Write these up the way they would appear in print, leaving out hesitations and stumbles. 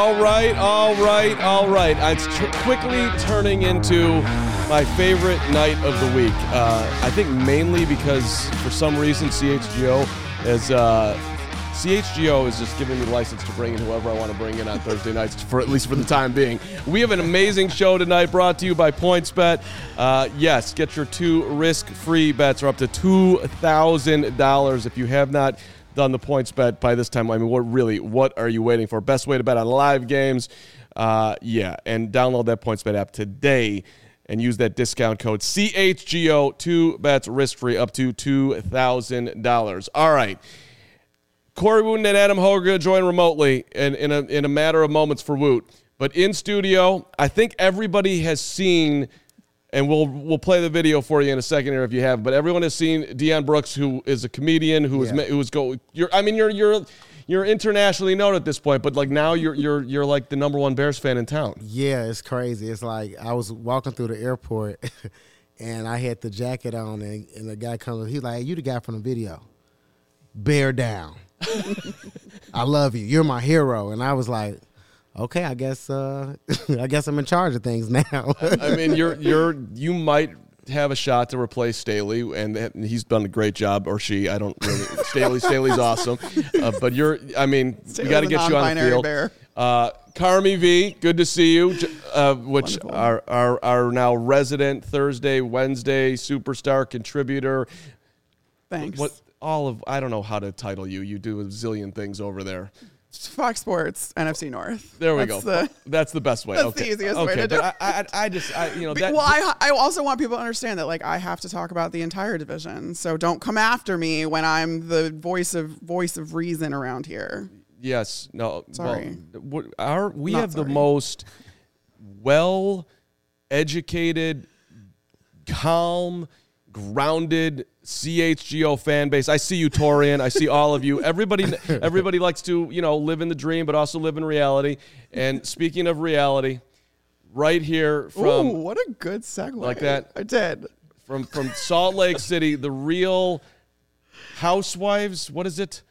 All right. It's quickly turning into my favorite night of the week. I think mainly because for some reason CHGO is just giving me the license to bring in whoever I want to bring in on Thursday nights, for at least for the time being. We have an amazing show tonight brought to you by PointsBet. Yes, get your 2 risk-free bets are up to $2,000. If you have not done the PointsBet by this time, I mean, what are you waiting for? Best way to bet on live games. And download that PointsBet app today and use that discount code CHGO. 2 bets risk-free up to $2,000. All right. Corey Wooten and Adam Hoger join remotely in a matter of moments for Woot. But in studio, I think everybody has seen, and we'll play the video for you in a second here if you have. But everyone has seen Deion Brooks, who is a comedian You're internationally known at this point, but like now you're like the number 1 Bears fan in town. Yeah, it's crazy. It's like I was walking through the airport, and I had the jacket on, and the guy comes. He's like, "Hey, you the guy from the video? Bear down." I love you. You're my hero. And I was like, okay, I guess I'm in charge of things now. I mean, you might have a shot to replace Staley, and he's done a great job, or she. I don't really. Staley's awesome, but we got to get you on the field. Bear. Carmi V, good to see you. Which are now resident Thursday, Wednesday superstar contributor. Thanks. I don't know how to title you. You do a zillion things over there. Fox Sports, NFC North. There we go. That's the best way. That's the easiest way to do it. I also want people to understand that, like, I have to talk about the entire division. So don't come after me when I'm the voice of reason around here. Yes. No. Sorry. We have the most well-educated, calm, grounded CHGO fan base. I see you, Torian. I see all of you. Everybody likes to, live in the dream, but also live in reality. And speaking of reality, right here from... Ooh, what a good segue. Like that? I did. From Salt Lake City, the Real Housewives, what is it?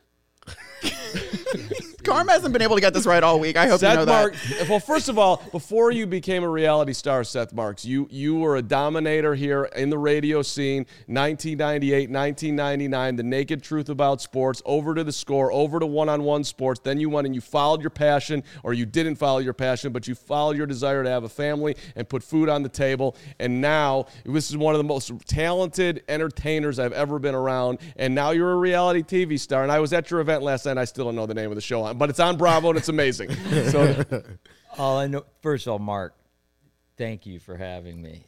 Carm hasn't been able to get this right all week. I hope you know that. Well, first of all, before you became a reality star, Seth Marks, you were a dominator here in the radio scene, 1998, 1999, The Naked Truth About Sports, over to The Score, over to One-on-One Sports. Then you went and you followed your passion, or you didn't follow your passion, but you followed your desire to have a family and put food on the table. And now, this is one of the most talented entertainers I've ever been around. And now you're a reality TV star. And I was at your event last night, and I still don't know the name of the show, but it's on Bravo, and it's amazing. So, all I know, first of all, Mark, thank you for having me.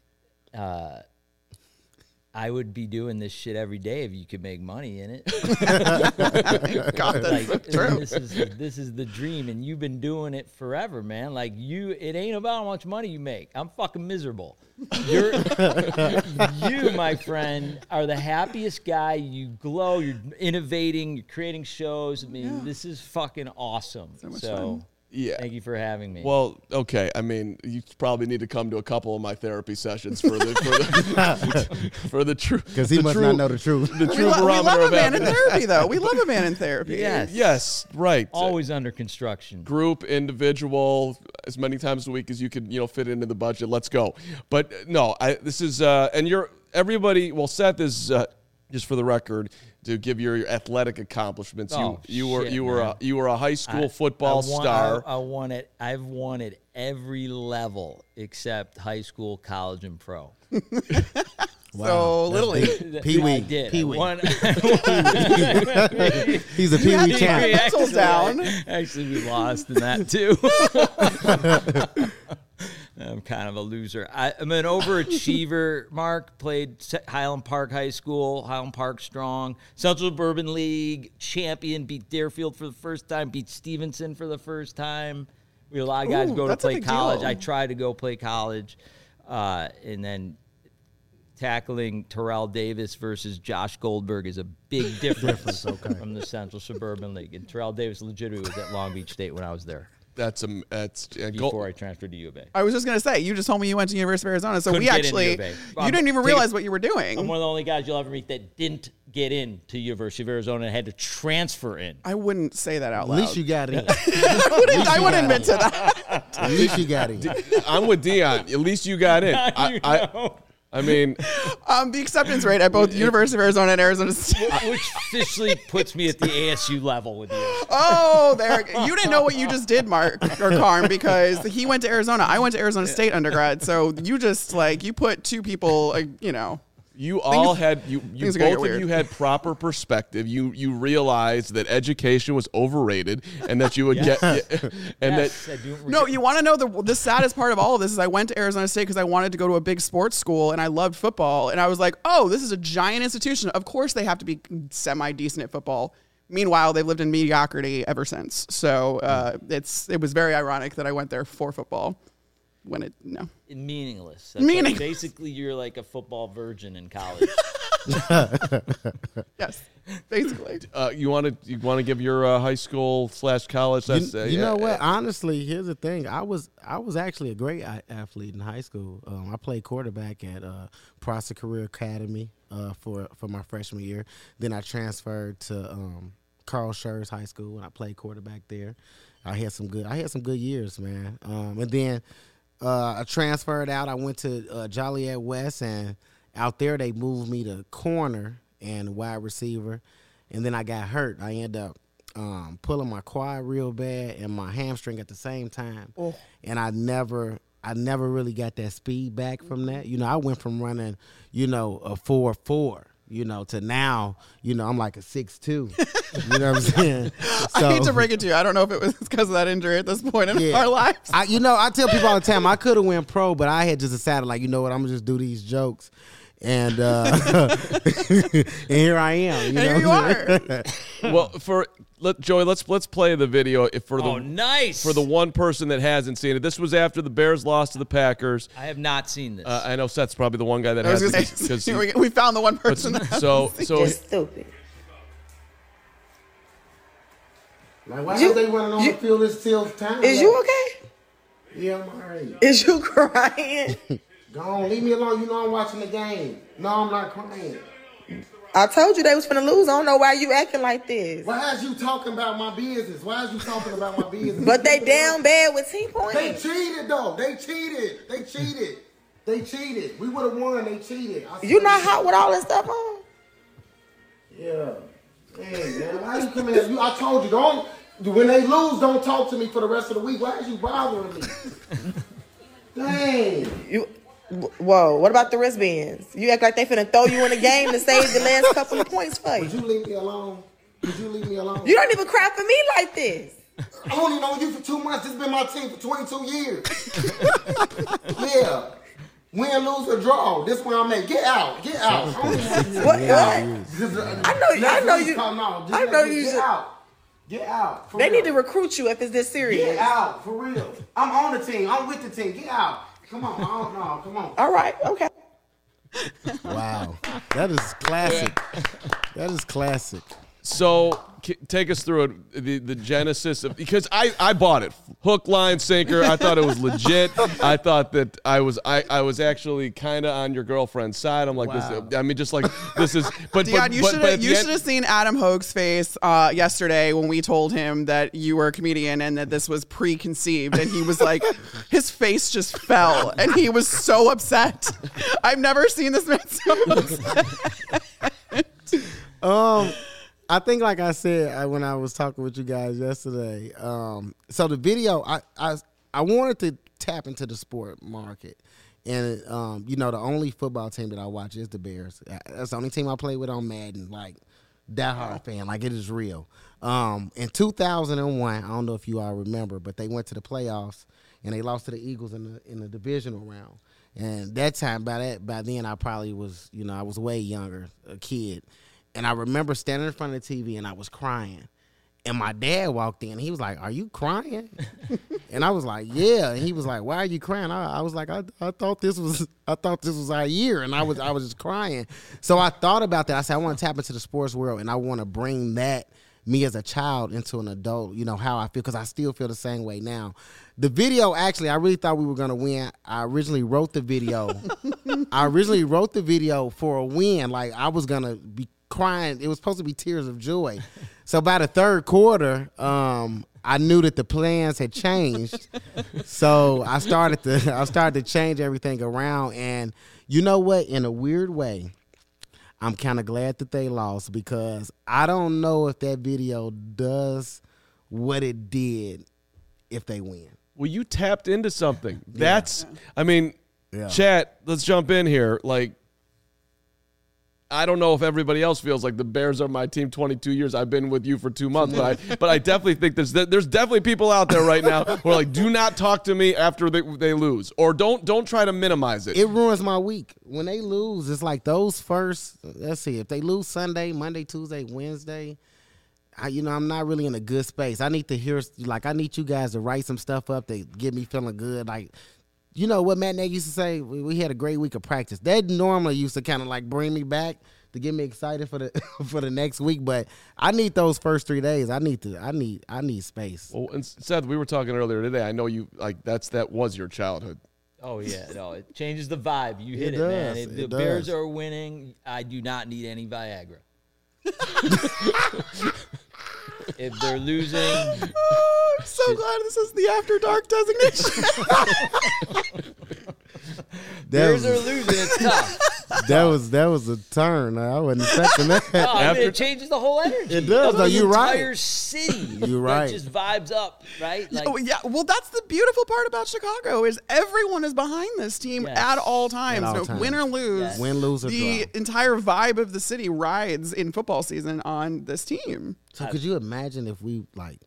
I would be doing this shit every day if you could make money in it. God, that's so true. This is the dream, and you've been doing it forever, man. Like it ain't about how much money you make. I'm fucking miserable. You, my friend, are the happiest guy. You glow. You're innovating. You're creating shows. I mean, This is fucking awesome. So much fun. Yeah. Thank you for having me. Well, okay. I mean, you probably need to come to a couple of my therapy sessions for the truth. Because he must not know the truth. We love a man in therapy, though. We love a man in therapy. Yes, right. Always under construction. Group, individual, as many times a week as you could, fit into the budget. Let's go. But no, this is and everybody. Well, Seth is just for the record, to give your athletic accomplishments. You were a high school football star. I've won at every level except high school, college, and pro. So Little League. Pee-wee. I did. Pee-wee. He's a Pee-wee champ. Actually, we lost in that too. I'm kind of a loser. I'm an overachiever, Mark. Played Highland Park High School, Highland Park Strong, Central Suburban League, champion, beat Deerfield for the first time, beat Stevenson for the first time. We had a lot of guys go to play college. I tried to go play college. And then tackling Terrell Davis versus Josh Goldberg is a big difference from the Central Suburban League. And Terrell Davis legitimately was at Long Beach State when I was there. That's before I transferred to U of A. I was just gonna say, you just told me you went to University of Arizona, so you didn't even realize what you were doing. I'm one of the only guys you'll ever meet that didn't get into University of Arizona and had to transfer in. I wouldn't say that out loud. At least you got in. I wouldn't admit to that. At least you got in. I'm with Dion. At least you got in. I mean, the acceptance rate at both University of Arizona and Arizona State. Which officially puts me at the ASU level with you. Oh, there. You didn't know what you just did, Mark or Carm, because he went to Arizona. I went to Arizona State undergrad. So you just you put two people, you all had things are both gonna get of weird. you had proper perspective. You realized that education was overrated and that you would get No, you want to know the saddest part of all of this is I went to Arizona State because I wanted to go to a big sports school and I loved football. And I was like, oh, this is a giant institution. Of course they have to be semi-decent at football. Meanwhile, they've lived in mediocrity ever since. So it was very ironic that I went there for football. Meaningless. Meaningless. Basically, you're like a football virgin in college. Yes, basically. you want to give your high school / college? You know what? Honestly, here's the thing. I was actually a great athlete in high school. I played quarterback at Prosser Career Academy for my freshman year. Then I transferred to Carl Schurz High School and I played quarterback there. I had some good years, man. And then I transferred out. I went to Joliet West, and out there they moved me to corner and wide receiver. And then I got hurt. I ended up pulling my quad real bad and my hamstring at the same time. Oh. And I never really got that speed back from that. I went from running, a 4.4. To now, I'm like a 6'2". You know what I'm saying? So, I hate to break it to you. I don't know if it was because of that injury at this point in our lives. I tell people all the time, I could have went pro, but I had just decided, I'm going to just do these jokes. And and here I am. Here you are. Well, Joey, let's play the video for the one person that hasn't seen it. This was after the Bears lost to the Packers. I have not seen this. I know Seth's probably the one guy that hasn't. We found the one person. So just stupid. Like, why are they running on the field this till time? Is you okay? Yeah, I'm all right. Is you crying? Go on, leave me alone. I'm watching the game. No, I'm not crying. I told you they was finna lose. I don't know why you acting like this. Why is you talking about my business? But they down bad with 10 points. They cheated, though. They cheated. We would have won. They cheated. You not hot with all this stuff on? Yeah. Hey, man, why you coming here? I told you, don't. When they lose, don't talk to me for the rest of the week. Why is you bothering me? Dang. Whoa, what about the wristbands? You act like they finna throw you in the game to save the last couple of points for you. Would you leave me alone? You don't even cry for me like this. I only known you for 2 months. This has been my team for 22 years. Yeah. Win, lose, or draw. This where I'm at. Get out. What? I know you. Get out. They need to recruit you if it's this serious. Get out, for real. I'm on the team. I'm with the team. Get out. Come on. Come on. All right. Okay. Wow. That is classic. That is classic. So take us through it, the genesis of, because I bought it hook, line, sinker. I thought it was legit. I thought that I was actually kind of on your girlfriend's side. I'm like, wow. This is. But Dion, you should have seen Adam Hogue's face yesterday when we told him that you were a comedian and that this was preconceived, and he was like, his face just fell, and he was so upset. I've never seen this man so upset. I think, like I said when I was talking with you guys yesterday, so the video, I wanted to tap into the sport market. And, the only football team that I watch is the Bears. That's the only team I play with on Madden, like, diehard fan. Like, it is real. In 2001, I don't know if you all remember, but they went to the playoffs, and they lost to the Eagles in the divisional round. And that time, by then, I probably was, I was way younger, a kid. And I remember standing in front of the TV and I was crying. And my dad walked in. He was like, "Are you crying?" And I was like, "Yeah." And he was like, "Why are you crying?" I was like, I thought this was our year, and I was just crying. So I thought about that. I said, I want to tap into the sports world, and I want to bring that, me as a child, into an adult. How I feel, because I still feel the same way now. The video, actually, I really thought we were going to win. I originally wrote the video. for a win. Like, I was going to crying. It was supposed to be tears of joy. So by the third quarter, I knew that the plans had changed. So I started to change everything around. And you know what? In a weird way, I'm kind of glad that they lost, because I don't know if that video does what it did if they win. Well, you tapped into something. That's, I mean, chat, let's jump in here. Like, I don't know if everybody else feels like the Bears are my team 22 years. I've been with you for 2 months, but I definitely think there's definitely people out there right now who are like, do not talk to me after they lose, or don't try to minimize it. It ruins my week. When they lose, it's like those first, let's see, if they lose Sunday, Monday, Tuesday, Wednesday, I'm not really in a good space. I need to hear, I need you guys to write some stuff up that get me feeling good. Like, you know what Matt Nagy used to say? We had a great week of practice. That normally used to kind of bring me back to get me excited for the for the next week. But I need those first 3 days. I need space. Well, and Seth, we were talking earlier today. I know you that was your childhood. Oh yeah, no, it changes the vibe. You hit it, does. man. If the Bears are winning, I do not need any Viagra. If they're losing, I'm so glad this is the After Dark designation. Bears are losing. It's tough. That was a turn. I wasn't expecting that. It changes the whole energy. It does. Of the You're right. entire city. You're right. It just vibes up, right? Yeah. Well, that's the beautiful part about Chicago is everyone is behind this team at all times. At all times. Win or lose. Yes. Win, lose, or the draw. entire vibe of the city rides in football season on this team. So could you imagine if we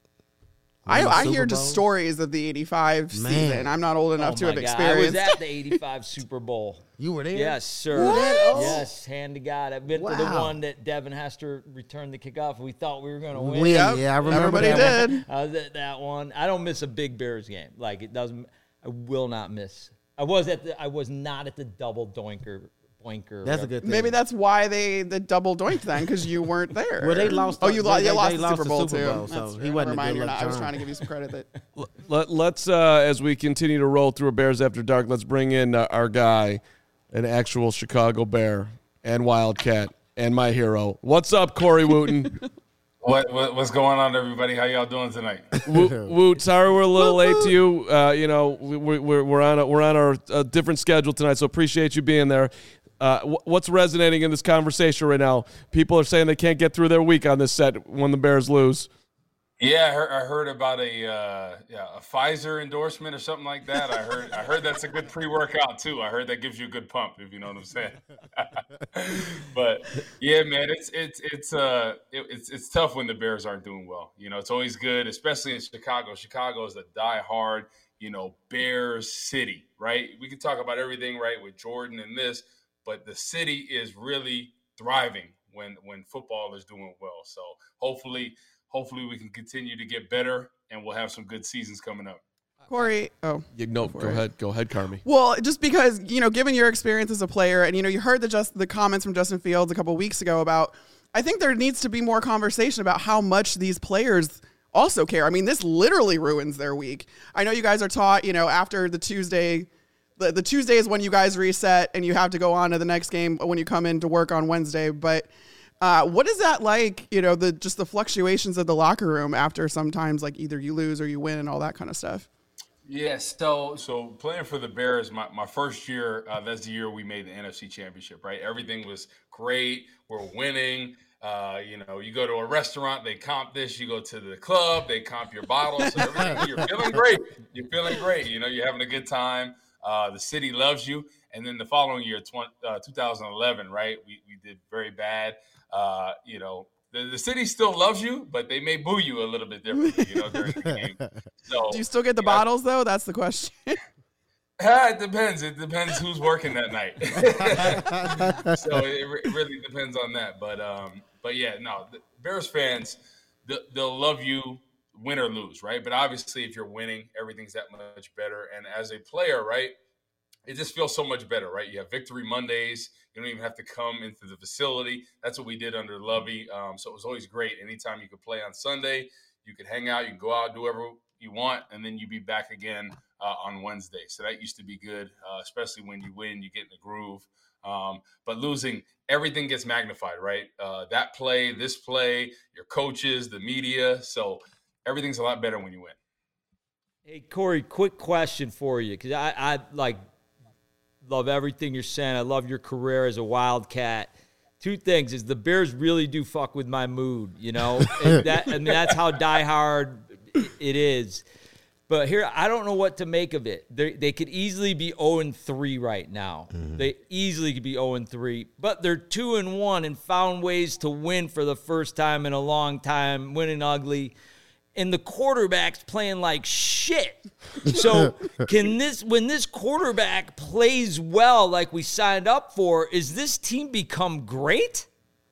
I Super hear just Bowl? stories of the 85 season. I'm not old enough to have I experienced. was at the 85 Super Bowl. You were there? Yes, sir. What? Yes, hand to God. I've been to the Wow. one that Devin Hester returned the kickoff. We thought we were going to win. Win. Yeah, I remember Everybody that did. I was at that one. I don't miss a big Bears game. It doesn't. I will not miss. I was not at the double boinker. That's a good thing. Maybe that's why the double doinked then, because you weren't there. Well, they lost. Oh, you lost they the Super Bowl the Super Bowl, too. so That's he true. wasn't Never a mind, good you're luck not. I was charm. trying to give you some credit. Let's as we continue to roll through a Bears After Dark, let's bring in our guy, an actual Chicago Bear and Wildcat and my hero. What's up, Corey Wooten? What's going on, everybody? How y'all doing tonight? Woot, sorry we're a little late to you. We're on our different schedule tonight, so appreciate you being there. What's resonating in this conversation right now? People are saying they can't get through their week on this set when the Bears lose. Yeah, I heard about a Pfizer endorsement or something like that. I heard that's a good pre-workout too. I heard that gives you a good pump, if you know what I'm saying. But yeah, man, it's tough when the Bears aren't doing well. It's always good, especially in Chicago. Chicago is a die-hard, Bears city, right? We can talk about everything, right, with Jordan and this, but the city is really thriving when football is doing well. So hopefully we can continue to get better, and we'll have some good seasons coming up. Corey, Go ahead, Carmi. Well, just because, given your experience as a player, and, you heard the comments from Justin Fields a couple weeks ago about, I think there needs to be more conversation about how much these players also care. I mean, this literally ruins their week. I know you guys are taught, after the Tuesday, the Tuesday is when you guys reset and you have to go on to the next game when you come in to work on Wednesday. But what is that like, the fluctuations of the locker room after sometimes either you lose or you win and all that kind of stuff? Yes. So playing for the Bears, my first year, that's the year we made the NFC Championship, right? Everything was great. We're winning. You go to a restaurant, they comp this. You go to the club, they comp your bottles. So everything, you're feeling great. You're having a good time. The city loves you. And then the following year, 2011, right? We did very bad. The city still loves you, but they may boo you a little bit differently, during the game. So, do you still get the bottles, though? That's the question. It depends. It depends who's working that night. So it really depends on that. But yeah, no, the Bears fans, they'll love you win or lose, right? But obviously, if you're winning, everything's that much better. And as a player, right, it just feels so much better, right? You have Victory Mondays. You don't even have to come into the facility. That's what we did under Lovey. So it was always great. Anytime you could play on Sunday, you could hang out, you can go out, do whatever you want, and then you'd be back again on Wednesday. So that used to be good, especially when you win, you get in the groove. But losing, everything gets magnified, right? That play, this play, your coaches, the media. So everything's a lot better when you win. Hey, Corey, quick question for you, because I love everything you're saying. I love your career as a Wildcat. Two things is the Bears really do fuck with my mood, you know? That's how diehard it is. But here, I don't know what to make of it. They could easily be 0-3 right now. Mm-hmm. They easily could be 0-3, but they're 2-1 and found ways to win for the first time in a long time, winning ugly. And the quarterback's playing like shit. So when this quarterback plays well like we signed up for, is this team become great?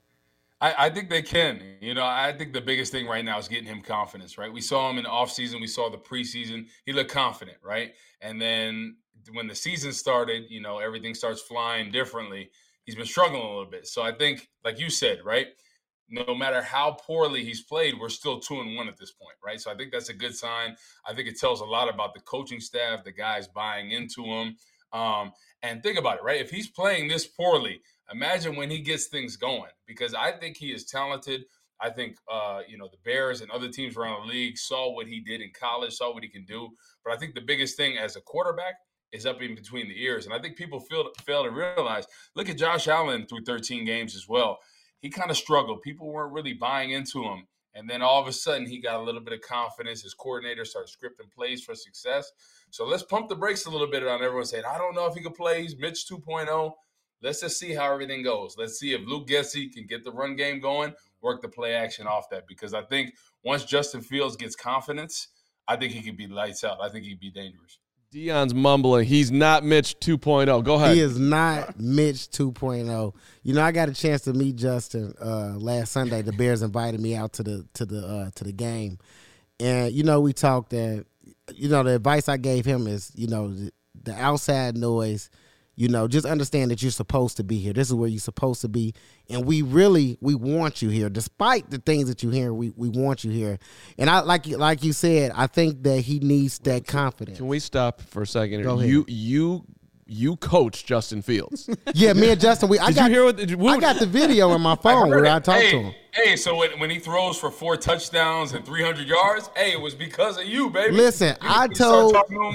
I think they can. You know, I think the biggest thing right now is getting him confidence, right? We saw him in the offseason. We saw the preseason. He looked confident, right? And then when the season started, you know, everything starts flying differently. He's been struggling a little bit. So I think, like you said, right, no matter how poorly he's played, we're still 2-1 at this point, right? So I think that's a good sign. I think it tells a lot about the coaching staff, the guys buying into him. And think about it, right? If he's playing this poorly, imagine when he gets things going, because I think he is talented. I think, the Bears and other teams around the league saw what he did in college, saw what he can do. But I think the biggest thing as a quarterback is up in between the ears. And I think people fail to realize, look at Josh Allen through 13 games as well. He kind of struggled. People weren't really buying into him. And then all of a sudden, he got a little bit of confidence. His coordinator started scripting plays for success. So let's pump the brakes a little bit on everyone saying, I don't know if he can play. He's Mitch 2.0. Let's just see how everything goes. Let's see if Luke Getsy can get the run game going, work the play action off that. Because I think once Justin Fields gets confidence, I think he could be lights out. I think he'd be dangerous. Deion's mumbling. He's not Mitch 2.0. Go ahead. He is not Mitch 2.0. You know, I got a chance to meet Justin last Sunday. The Bears invited me out to the game, and you know, we talked. And you know, the advice I gave him is, you know, the outside noise. You know, just understand that you're supposed to be here. This is where you're supposed to be. And we want you here. Despite the things that you hear, we want you here. And I like you said, I think that he needs that confidence. Can we stop for a second? Go ahead. You coach Justin Fields. Yeah, me and Justin, I got the video in my phone where I talked to him. Hey, so when he throws for 4 touchdowns and 300 yards, hey, it was because of you, baby. Listen, I told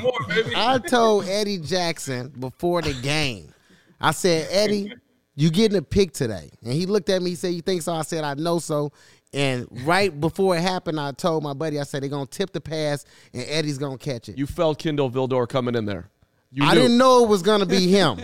told Eddie Jackson before the game, I said, Eddie, you getting a pick today. And he looked at me, he said, you think so? I said, I know so. And right before it happened, I told my buddy, I said, they're going to tip the pass and Eddie's going to catch it. You felt Kendall Vildor coming in there. I didn't know it was going to be him.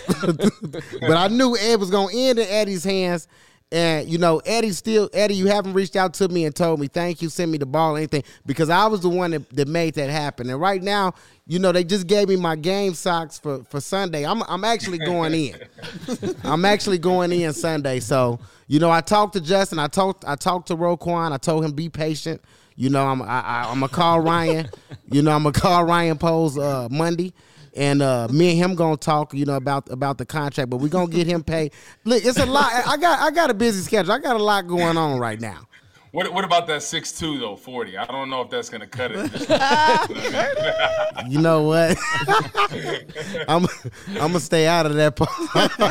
But I knew Ed was going to end in Eddie's hands. And, you know, Eddie, you haven't reached out to me and told me, thank you, send me the ball or anything, because I was the one that made that happen. And right now, you know, they just gave me my game socks for Sunday. I'm actually going in. I'm actually going in Sunday. So, you know, I talked to Justin. I talked to Roquan. I told him, be patient. You know, I'm going to call Ryan. You know, I'm going to call Ryan Poles Monday. And me and him gonna talk, you know, about the contract, but we're gonna get him paid. Look, it's a lot. I got a busy schedule. I got a lot going on right now. What about that 6'2", though, 40? I don't know if that's gonna cut it. You know what? I'm gonna stay out of that part.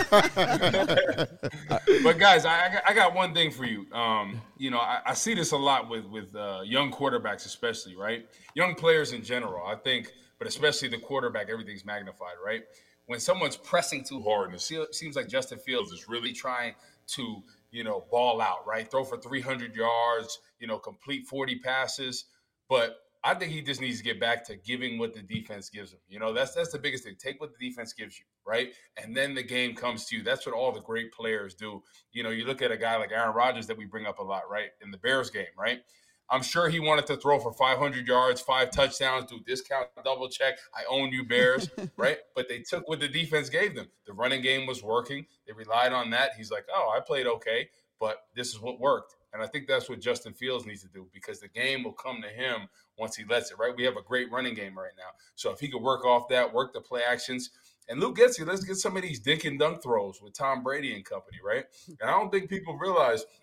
But guys, I got one thing for you. You know, I see this a lot with young quarterbacks, especially, right? Young players in general, I think. But especially the quarterback, everything's magnified, right? When someone's pressing too hard, and it seems like Justin Fields is really trying to, you know, ball out, right? Throw for 300 yards, you know, complete 40 passes. But I think he just needs to get back to giving what the defense gives him. You know, that's the biggest thing. Take what the defense gives you, right? And then the game comes to you. That's what all the great players do. You know, you look at a guy like Aaron Rodgers that we bring up a lot, right? In the Bears game, right? I'm sure he wanted to throw for 500 yards, 5 touchdowns, do discount, double check. I own you, Bears, right? But they took what the defense gave them. The running game was working. They relied on that. He's like, oh, I played okay, but this is what worked. And I think that's what Justin Fields needs to do, because the game will come to him once he lets it, right? We have a great running game right now. So if he could work off that, work the play actions, and Luke Getsy, let's get some of these dink and dunk throws with Tom Brady and company, right? And I don't think people realize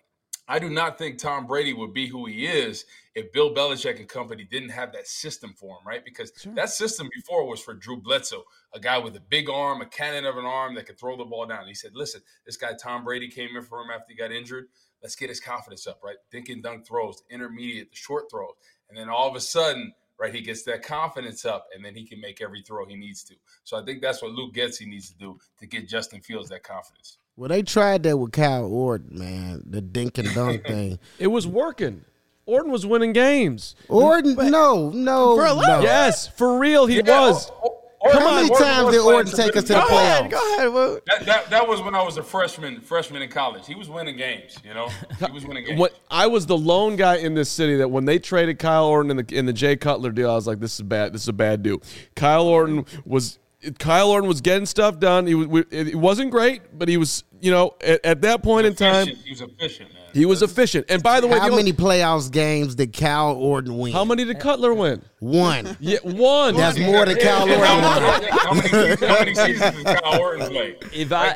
I do not think Tom Brady would be who he is if Bill Belichick and company didn't have that system for him, right? Because that system before was for Drew Bledsoe, a guy with a big arm, a cannon of an arm that could throw the ball down. He said, listen, this guy Tom Brady came in for him after he got injured. Let's get his confidence up, right? Dink and dunk throws, the intermediate, the short throws. And then all of a sudden, right, he gets that confidence up, and then he can make every throw he needs to. So I think that's what Luke Getsy needs to do to get Justin Fields that confidence. Well, they tried that with Kyle Orton, man, the dink and dunk thing. It was working. Orton was winning games. Orton, no. Yes, for real, he was. How many times did Orton take us to the playoffs? Go ahead. Well, that was when I was a freshman in college. He was winning games, He was winning games. I was the lone guy in this city that when they traded Kyle Orton in the Jay Cutler deal, I was like, this is bad. This is a bad deal. Kyle Orton was getting stuff done. It wasn't great, but he was, at that point in time, he was efficient, man. He was efficient. And by the way, how many playoffs games did Kyle Orton win? How many did Cutler win? One. Yeah, one. That's more than Kyle Orton won. How many seasons did Kyle Orton play? If I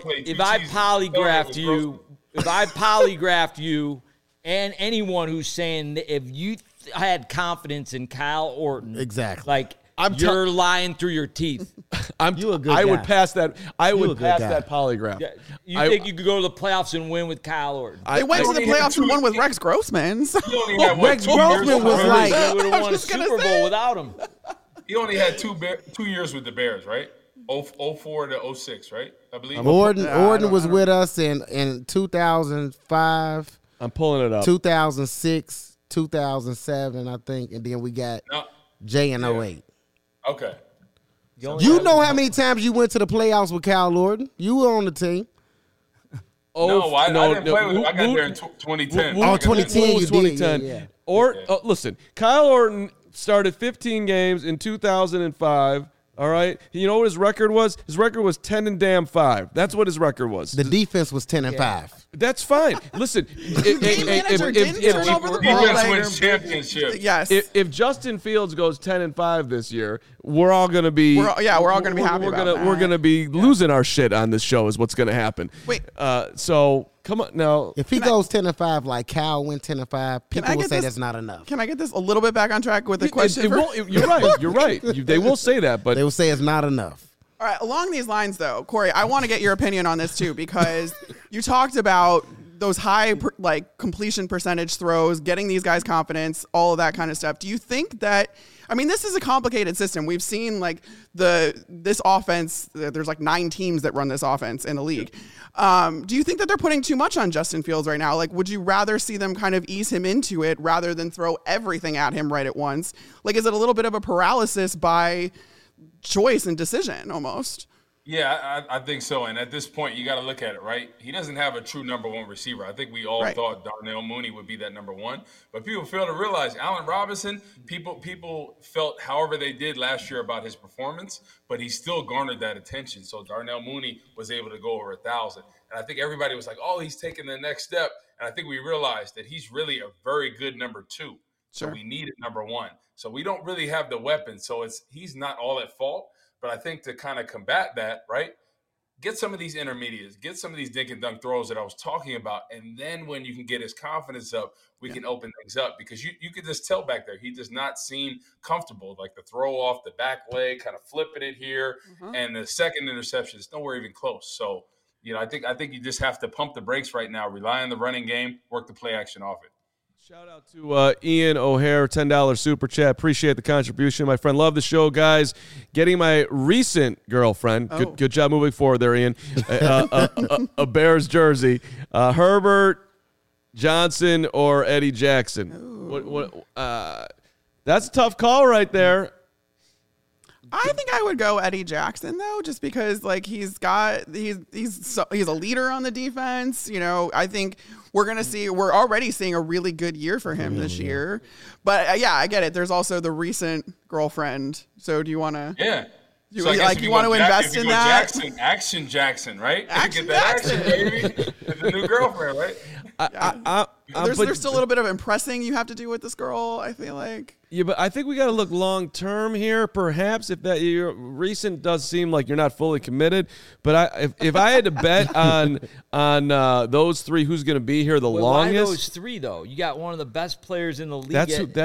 polygraphed you and anyone who's saying that if you had confidence in Kyle Orton, exactly, you're lying through your teeth. I would pass that. I would pass that polygraph. Yeah, you think you could go to the playoffs and win with Kyle Orton? They went to the playoffs and won with Rex Grossman. So. Rex Grossman was like, they would have won a Super Bowl without him. He only had 2 years with the Bears, right? 04 to 06, right? I believe. Orton was with us in 2005. I'm pulling it up. 2006, 2007, I think, and then we got Jay in 08. Okay. You know how many times you went to the playoffs with Kyle Orton? You were on the team. I didn't play with him. I got there in 2010. 2010 you 2010. did. Yeah. Listen, Kyle Orton started 15 games in 2005. All right. You know what his record was? His record was 10-5. That's what his record was. The defense was 10-5. That's fine. Listen, defense wins championships. Yes. If Justin Fields goes 10-5 this year, we're all gonna be. We're all gonna be happy. We're gonna be losing our shit on this show. Is what's gonna happen. Wait. So come on now. If he goes 10-5, like Cal went 10-5, people will say that's not enough. Can I get this a little bit back on track with the question? You're right. You're right. They will say that, but they will say it's not enough. All right. Along these lines, though, Corey, I want to get your opinion on this too, because you talked about those high completion percentage throws, getting these guys confidence, all of that kind of stuff. Do you think that? I mean, this is a complicated system. We've seen this offense. There's 9 teams that run this offense in the league. Do you think that they're putting too much on Justin Fields right now? Would you rather see them kind of ease him into it rather than throw everything at him right at once? Is it a little bit of a paralysis by choice and decision almost? Yeah, I think so. And at this point, you got to look at it, right? He doesn't have a true number 1 receiver. I think we all thought Darnell Mooney would be that number 1. But people fail to realize Allen Robinson, people felt however they did last year about his performance, but he still garnered that attention. So Darnell Mooney was able to go over 1,000. And I think everybody was like, oh, he's taking the next step. And I think we realized that he's really a very good number 2. So we needed number 1. So we don't really have the weapons. So he's not all at fault. But I think to kind of combat that, right, get some of these intermediates, get some of these dink and dunk throws that I was talking about. And then when you can get his confidence up, we can open things up. Because you could just tell back there, he does not seem comfortable. The throw off the back leg, kind of flipping it here. And the second interception is nowhere even close. So, I think you just have to pump the brakes right now, rely on the running game, work the play action off it. Shout out to Ian O'Hare, $10 super chat. Appreciate the contribution, my friend. Love the show, guys. Getting my recent girlfriend, good job moving forward there, Ian, a Bears jersey. Herbert, Johnson, or Eddie Jackson? That's a tough call right there. I think I would go Eddie Jackson though, just because he's a leader on the defense. I think we're already seeing a really good year for him this year. But I get it. There's also the recent girlfriend. So do you want to? Yeah. You want to invest in that? Action Jackson, right? Action Get that Jackson. action, baby. The new girlfriend, right? there's still a little bit of impressing you have to do with this girl, I feel like. Yeah, but I think we got to look long term here. Perhaps if that your recent does seem like you're not fully committed, but if I had to bet on those three, who's going to be here the longest? Why those three though? You got one of the best players in the league. Let's help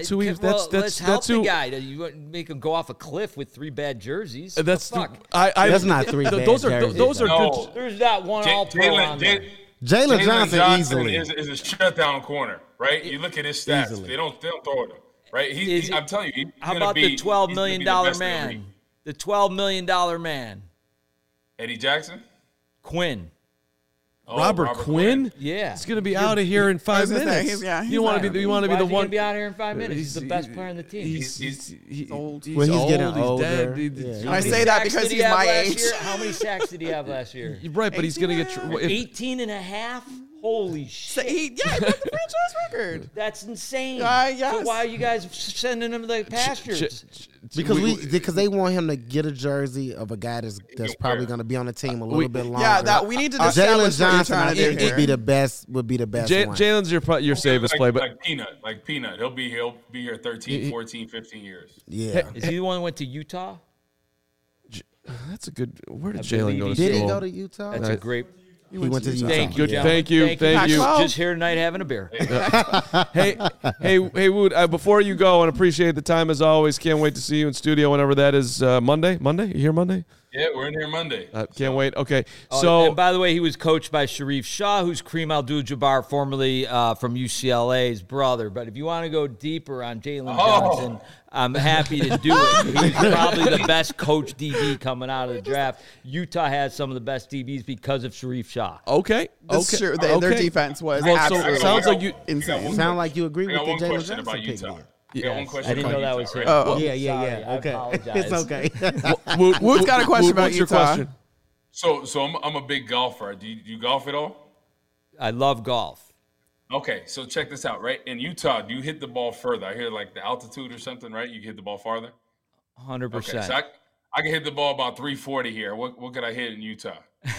the guy. You make him go off a cliff with 3 bad jerseys. That's that's not 3 bad those jerseys. Those are No. good. There's not one all-pro on there. Jalen Johnson easily is a shutdown corner, right? You look at his stats; Easily. they don't throw it, right? I'm telling you, how about the $12 million man? The $12 million man, Eddie Jackson, Quinn. Oh, Robert Quinn? Yeah, He's going to be out of here in 5 minutes. You want to be the one. Be out here in 5 minutes. He's the best player on the team. He's old. Well, he's getting He's older. dead. Yeah. I say that because he's my age. How many sacks did he have last year? You're right, but he's going to get 18 and a half? Holy shit. He broke the franchise record. That's insane. Yes. So why are you guys sending him to the pastures? Because they want him to get a jersey of a guy that's probably going to be on the team a little bit longer. Yeah, that we need to establish Jalen what you're Johnson trying to do here. would be the best one. Jalen's your safest play, but like Peanut. He'll be here 13, 14, 15 years. Yeah. Is he the one who went to Utah? that's a good. Where did Jalen go to Did he school? go to Utah? That's a great. He went to Utah. Thank you, Thank you. Just here tonight having a beer. Hey, Wood. Before you go, and appreciate the time as always. Can't wait to see you in studio whenever that is. Monday. You here Monday? Yeah, we're in here Monday. Can't wait. Okay, And by the way, he was coached by Sharif Shah, who's Kareem Abdul-Jabbar, formerly from UCLA's brother. But if you want to go deeper on Jalen Johnson, I'm happy to do it. He's probably the best coach DB coming out of the draft. Utah has some of the best DBs because of Sharif Shah. Okay. That's true. Their defense was absolutely sounds like you insane. Sound like you agree with the Jalen question about Johnson Utah. pick. I didn't know that was him. Yeah. I Okay, apologize. it's okay. Wood's got a question about what's your Utah. question? So I'm a big golfer. Do you golf at all? I love golf. Okay, so check this out, right? In Utah, do you hit the ball further? I hear like the altitude or something, right? You can hit the ball farther? 100%. Okay, so I can hit the ball about 340 here. What could I hit in Utah?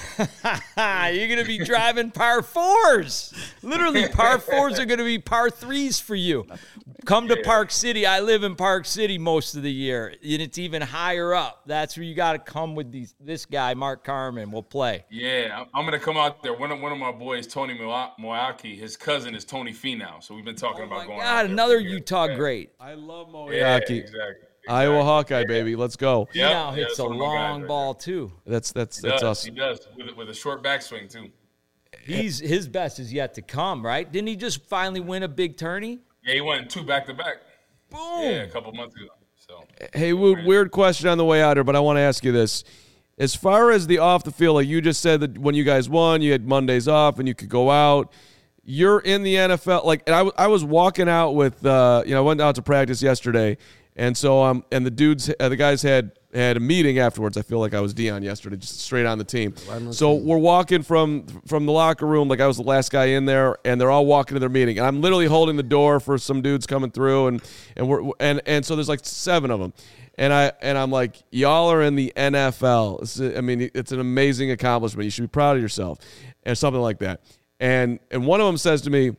You're going to be driving par 4s. Literally, par 4s are going to be par 3s for you. Come to Park City. I live in Park City most of the year, and it's even higher up. That's where you got to come with this guy, Mark Carman, will play. Yeah, I'm going to come out there. One of my boys, Tony Moyaki, his cousin is Tony Finau. So we've been talking about going out there. Another Utah great. I love Yeah, Moyaki. exactly. Iowa Hawkeye, baby. Let's go. He now Yeah, hits a that's one of my guys long right ball, too. That's us. He does with a short backswing too. His best is yet to come, right? Didn't he just finally win a big tourney? Yeah, he won 2 back-to-back. Boom. Yeah, a couple months ago. So Hey, Wood, weird question on the way out here, but I want to ask you this. As far as the off the field, like you just said that when you guys won, you had Mondays off and you could go out. You're in the NFL. Like, and I was walking out with, I went out to practice yesterday. And so, and the guys had a meeting afterwards. I feel like I was Dion yesterday, just straight on the team. So we're walking from the locker room, like I was the last guy in there, and they're all walking to their meeting. And I'm literally holding the door for some dudes coming through, and so there's like 7 of them. And I'm like, y'all are in the NFL. It's an amazing accomplishment. You should be proud of yourself, and something like that. And one of them says to me,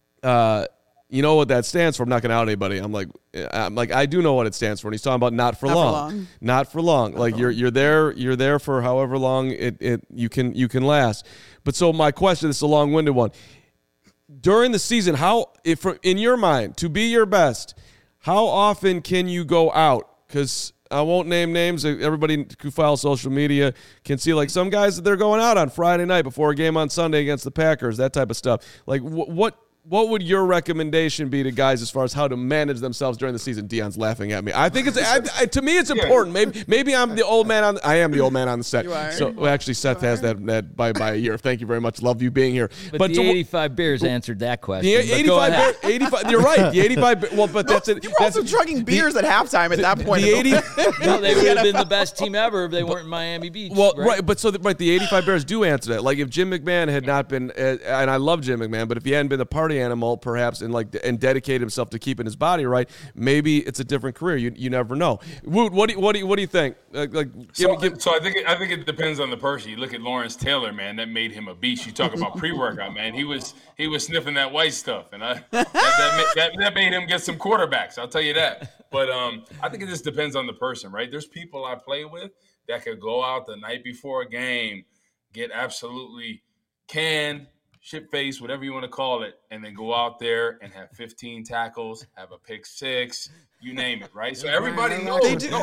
you know what that stands for? I'm not going to out anybody. I'm like, I do know what it stands for. And he's talking about not for long. Not for long. Like you're there for however long you can last. But so my question, this is a long-winded one. During the season, in your mind, to be your best, how often can you go out? Because I won't name names. Everybody who files social media can see, like, some guys that they're going out on Friday night before a game on Sunday against the Packers, that type of stuff. Like, what would your recommendation be to guys as far as how to manage themselves during the season? Dion's laughing at me. I think to me it's important. Maybe I'm the old man I am the old man on the set. You are. So actually, Seth has that by a year. Thank you very much. Love you being here. But the 85 Bears answered that question. The 85. You're right. The 85. Well, but that's it. You were also chugging beers at halftime at that point. The 80. No, they would have been the best team ever if they weren't in Miami Beach. Well, right. But the 85 Bears do answer that. Like if Jim McMahon had not been, and I love Jim McMahon, but if he hadn't been the party party animal, perhaps, and dedicate himself to keeping his body right, maybe it's a different career. You never know. Woot, what do you think? So I think it depends on the person. You look at Lawrence Taylor, man, that made him a beast. You talk about pre-workout, man. He was sniffing that white stuff, and that made him get some quarterbacks. I'll tell you that. But I think it just depends on the person, right? There's people I play with that could go out the night before a game, get absolutely canned, shit-faced, whatever you want to call it, and then go out there and have 15 tackles, have a pick six, you name it, right? So everybody knows.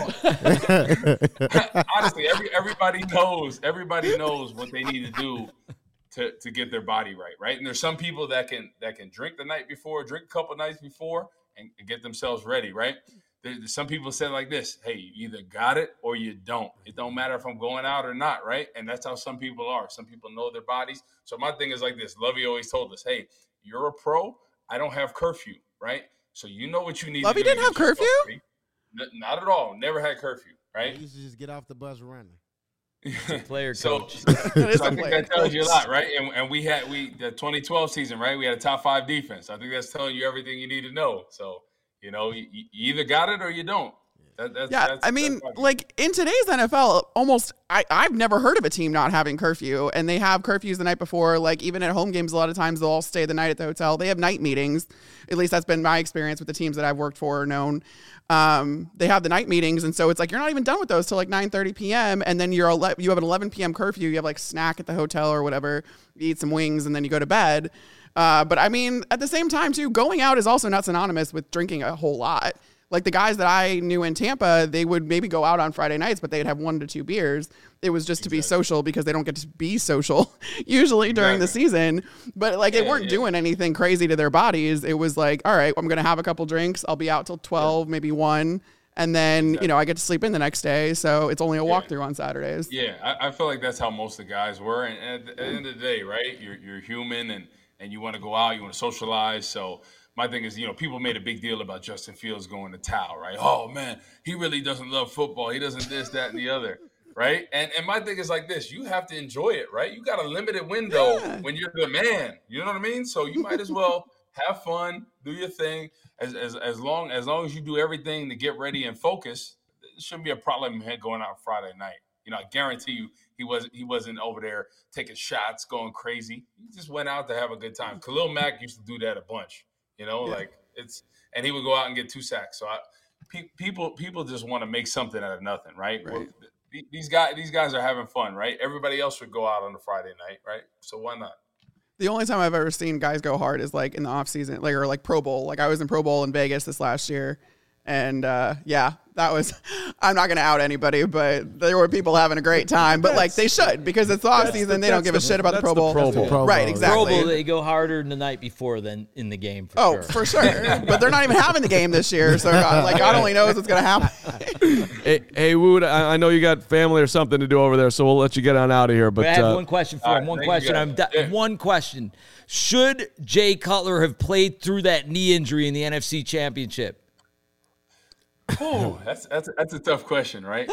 Honestly, everybody knows what they need to do to get their body right? And there's some people that can drink the night before, drink a couple nights before, and get themselves ready, right? Some people say like this, hey, you either got it or you don't. It don't matter if I'm going out or not, right? And that's how some people are. Some people know their bodies. So my thing is like this. Lovey always told us, hey, you're a pro. I don't have curfew, right? So you know what you need Lovey to do. Lovey didn't have curfew? Not at all. Never had curfew, right? I used to just get off the bus running. Player coach. So I think that tells you a lot, right? And we the 2012 season, right? We had a top 5 defense. I think that's telling you everything you need to know. So, you know, you either got it or you don't. I mean, like in today's NFL, I've never heard of a team not having curfew, and they have curfews the night before. Like even at home games, a lot of times they'll all stay the night at the hotel. They have night meetings. At least that's been my experience with the teams that I've worked for or known. They have the night meetings, and so it's like you're not even done with those till like 9:30 p.m. and then you have an 11 p.m. curfew. You have like snack at the hotel or whatever. You eat some wings, and then you go to bed. But I mean, at the same time too, going out is also not synonymous with drinking a whole lot. Like the guys that I knew in Tampa, they would maybe go out on Friday nights, but they'd have 1 to 2 beers. It was just to be social because they don't get to be social usually during the season. But like they weren't doing anything crazy to their bodies. It was like, all right, I'm going to have a couple drinks. I'll be out till 12, maybe 1. And then, you know, I get to sleep in the next day. So it's only a walkthrough on Saturdays. Yeah, I feel like that's how most of the guys were. And at the end of the day, right, you're human and you want to go out, you want to socialize. So my thing is, you know, people made a big deal about Justin Fields going to towel, right? Oh, man, he really doesn't love football. He doesn't this, that, and the other, right? And my thing is like this. You have to enjoy it, right? You got a limited window when you're the man. You know what I mean? So you might as well have fun, do your thing. As long as you do everything to get ready and focus, it shouldn't be a problem going out Friday night. You know, I guarantee you he wasn't over there taking shots, going crazy. He just went out to have a good time. Khalil Mack used to do that a bunch. You know, and he would go out and get 2 sacks. So people just want to make something out of nothing, right? Well, these guys are having fun, right? Everybody else would go out on a Friday night, right? So why not? The only time I've ever seen guys go hard is like in the off season, like or like Pro Bowl. Like I was in Pro Bowl in Vegas this last year, and that was. I'm not going to out anybody, but there were people having a great time. But like they should, because it's the off season. They don't give a shit about the Pro Bowl. Right, exactly. Pro Bowl, they go harder the night before than in the game. For sure. But they're not even having the game this year, so God only knows what's going to happen. Hey, Wood, I know you got family or something to do over there, so we'll let you get on out of here. But I have one question for him. One question. Should Jay Cutler have played through that knee injury in the NFC Championship? Oh, that's a tough question, right?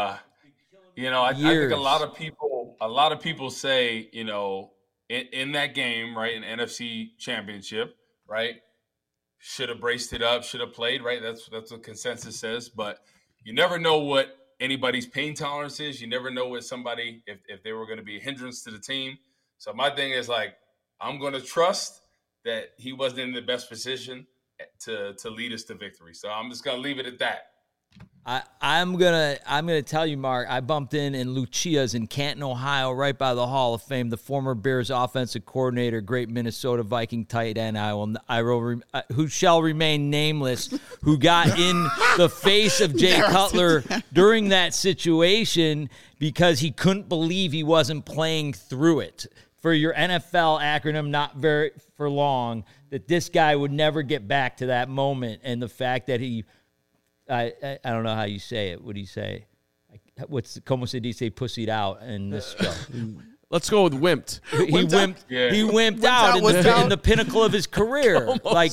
You know, I think a lot of people say, you know, in that game, right, in NFC Championship, right, should have braced it up, should have played, right? That's what consensus says. But you never know what anybody's pain tolerance is. You never know what somebody if they were going to be a hindrance to the team. So my thing is like, I'm going to trust that he wasn't in the best position to lead us to victory. So I'm just gonna leave it at that. I'm gonna tell you, Mark. I bumped in Lucia's in Canton, Ohio, right by the Hall of Fame. The former Bears offensive coordinator, great Minnesota Viking tight end, who shall remain nameless, who got in the face of Jay Cutler during that situation because he couldn't believe he wasn't playing through it. For your NFL acronym, not very for long, that this guy would never get back to that moment. And the fact that I don't know how you say it. What do you say? Como se dice pussied out in this show? Let's go with wimped. He wimped out in the pinnacle of his career. Like,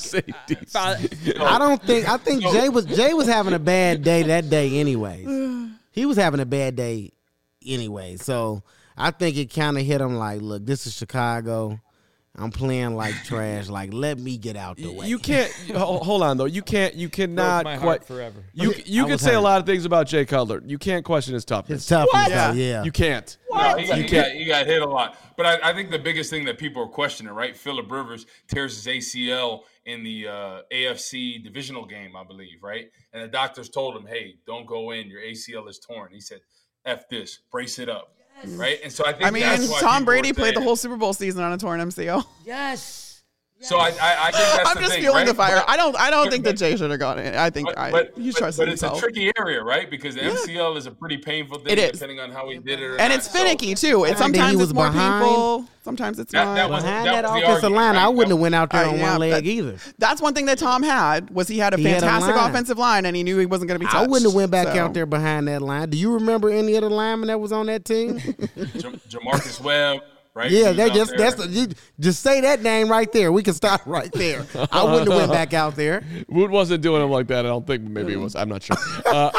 I think Jay was having a bad day that day anyways. He was having a bad day anyway. So I think it kind of hit him like, look, this is Chicago. I'm playing like trash. Like, let me get out the way. You can't. Hold on though. You cannot my quite. heart forever. You can say a lot of things about Jay Cutler. You can't question his toughness. His toughness, yeah. You can't. No, he got hit a lot. But I think the biggest thing that people are questioning, right? Phillip Rivers tears his ACL in the AFC divisional game, I believe, right? And the doctors told him, hey, don't go in. Your ACL is torn. He said, F this, brace it up. Yes. Right? And so I think that's why Tom Brady played the whole Super Bowl season on a torn MCL. Yes. So I think that's I'm the just thing, feeling right? the fire. I don't think that Jay should have gone in. I think he's trusting himself. But it's a tricky area, right? Because the MCL is a pretty painful thing, depending on how he did it. And it's finicky too. Sometimes it's more painful. Sometimes it's not. Behind that offensive line, I wouldn't have went out there on one leg either. That's one thing that Tom had was he had a fantastic offensive line, and he knew he wasn't going to be touched. I wouldn't have went back out there behind that line. Do you remember any of the linemen that was on that team? Jamarcus Webb. Right? Yeah, just say that name right there. We can stop right there. I wouldn't have went back out there. Wood wasn't doing him like that. I don't think. Maybe he was. I'm not sure.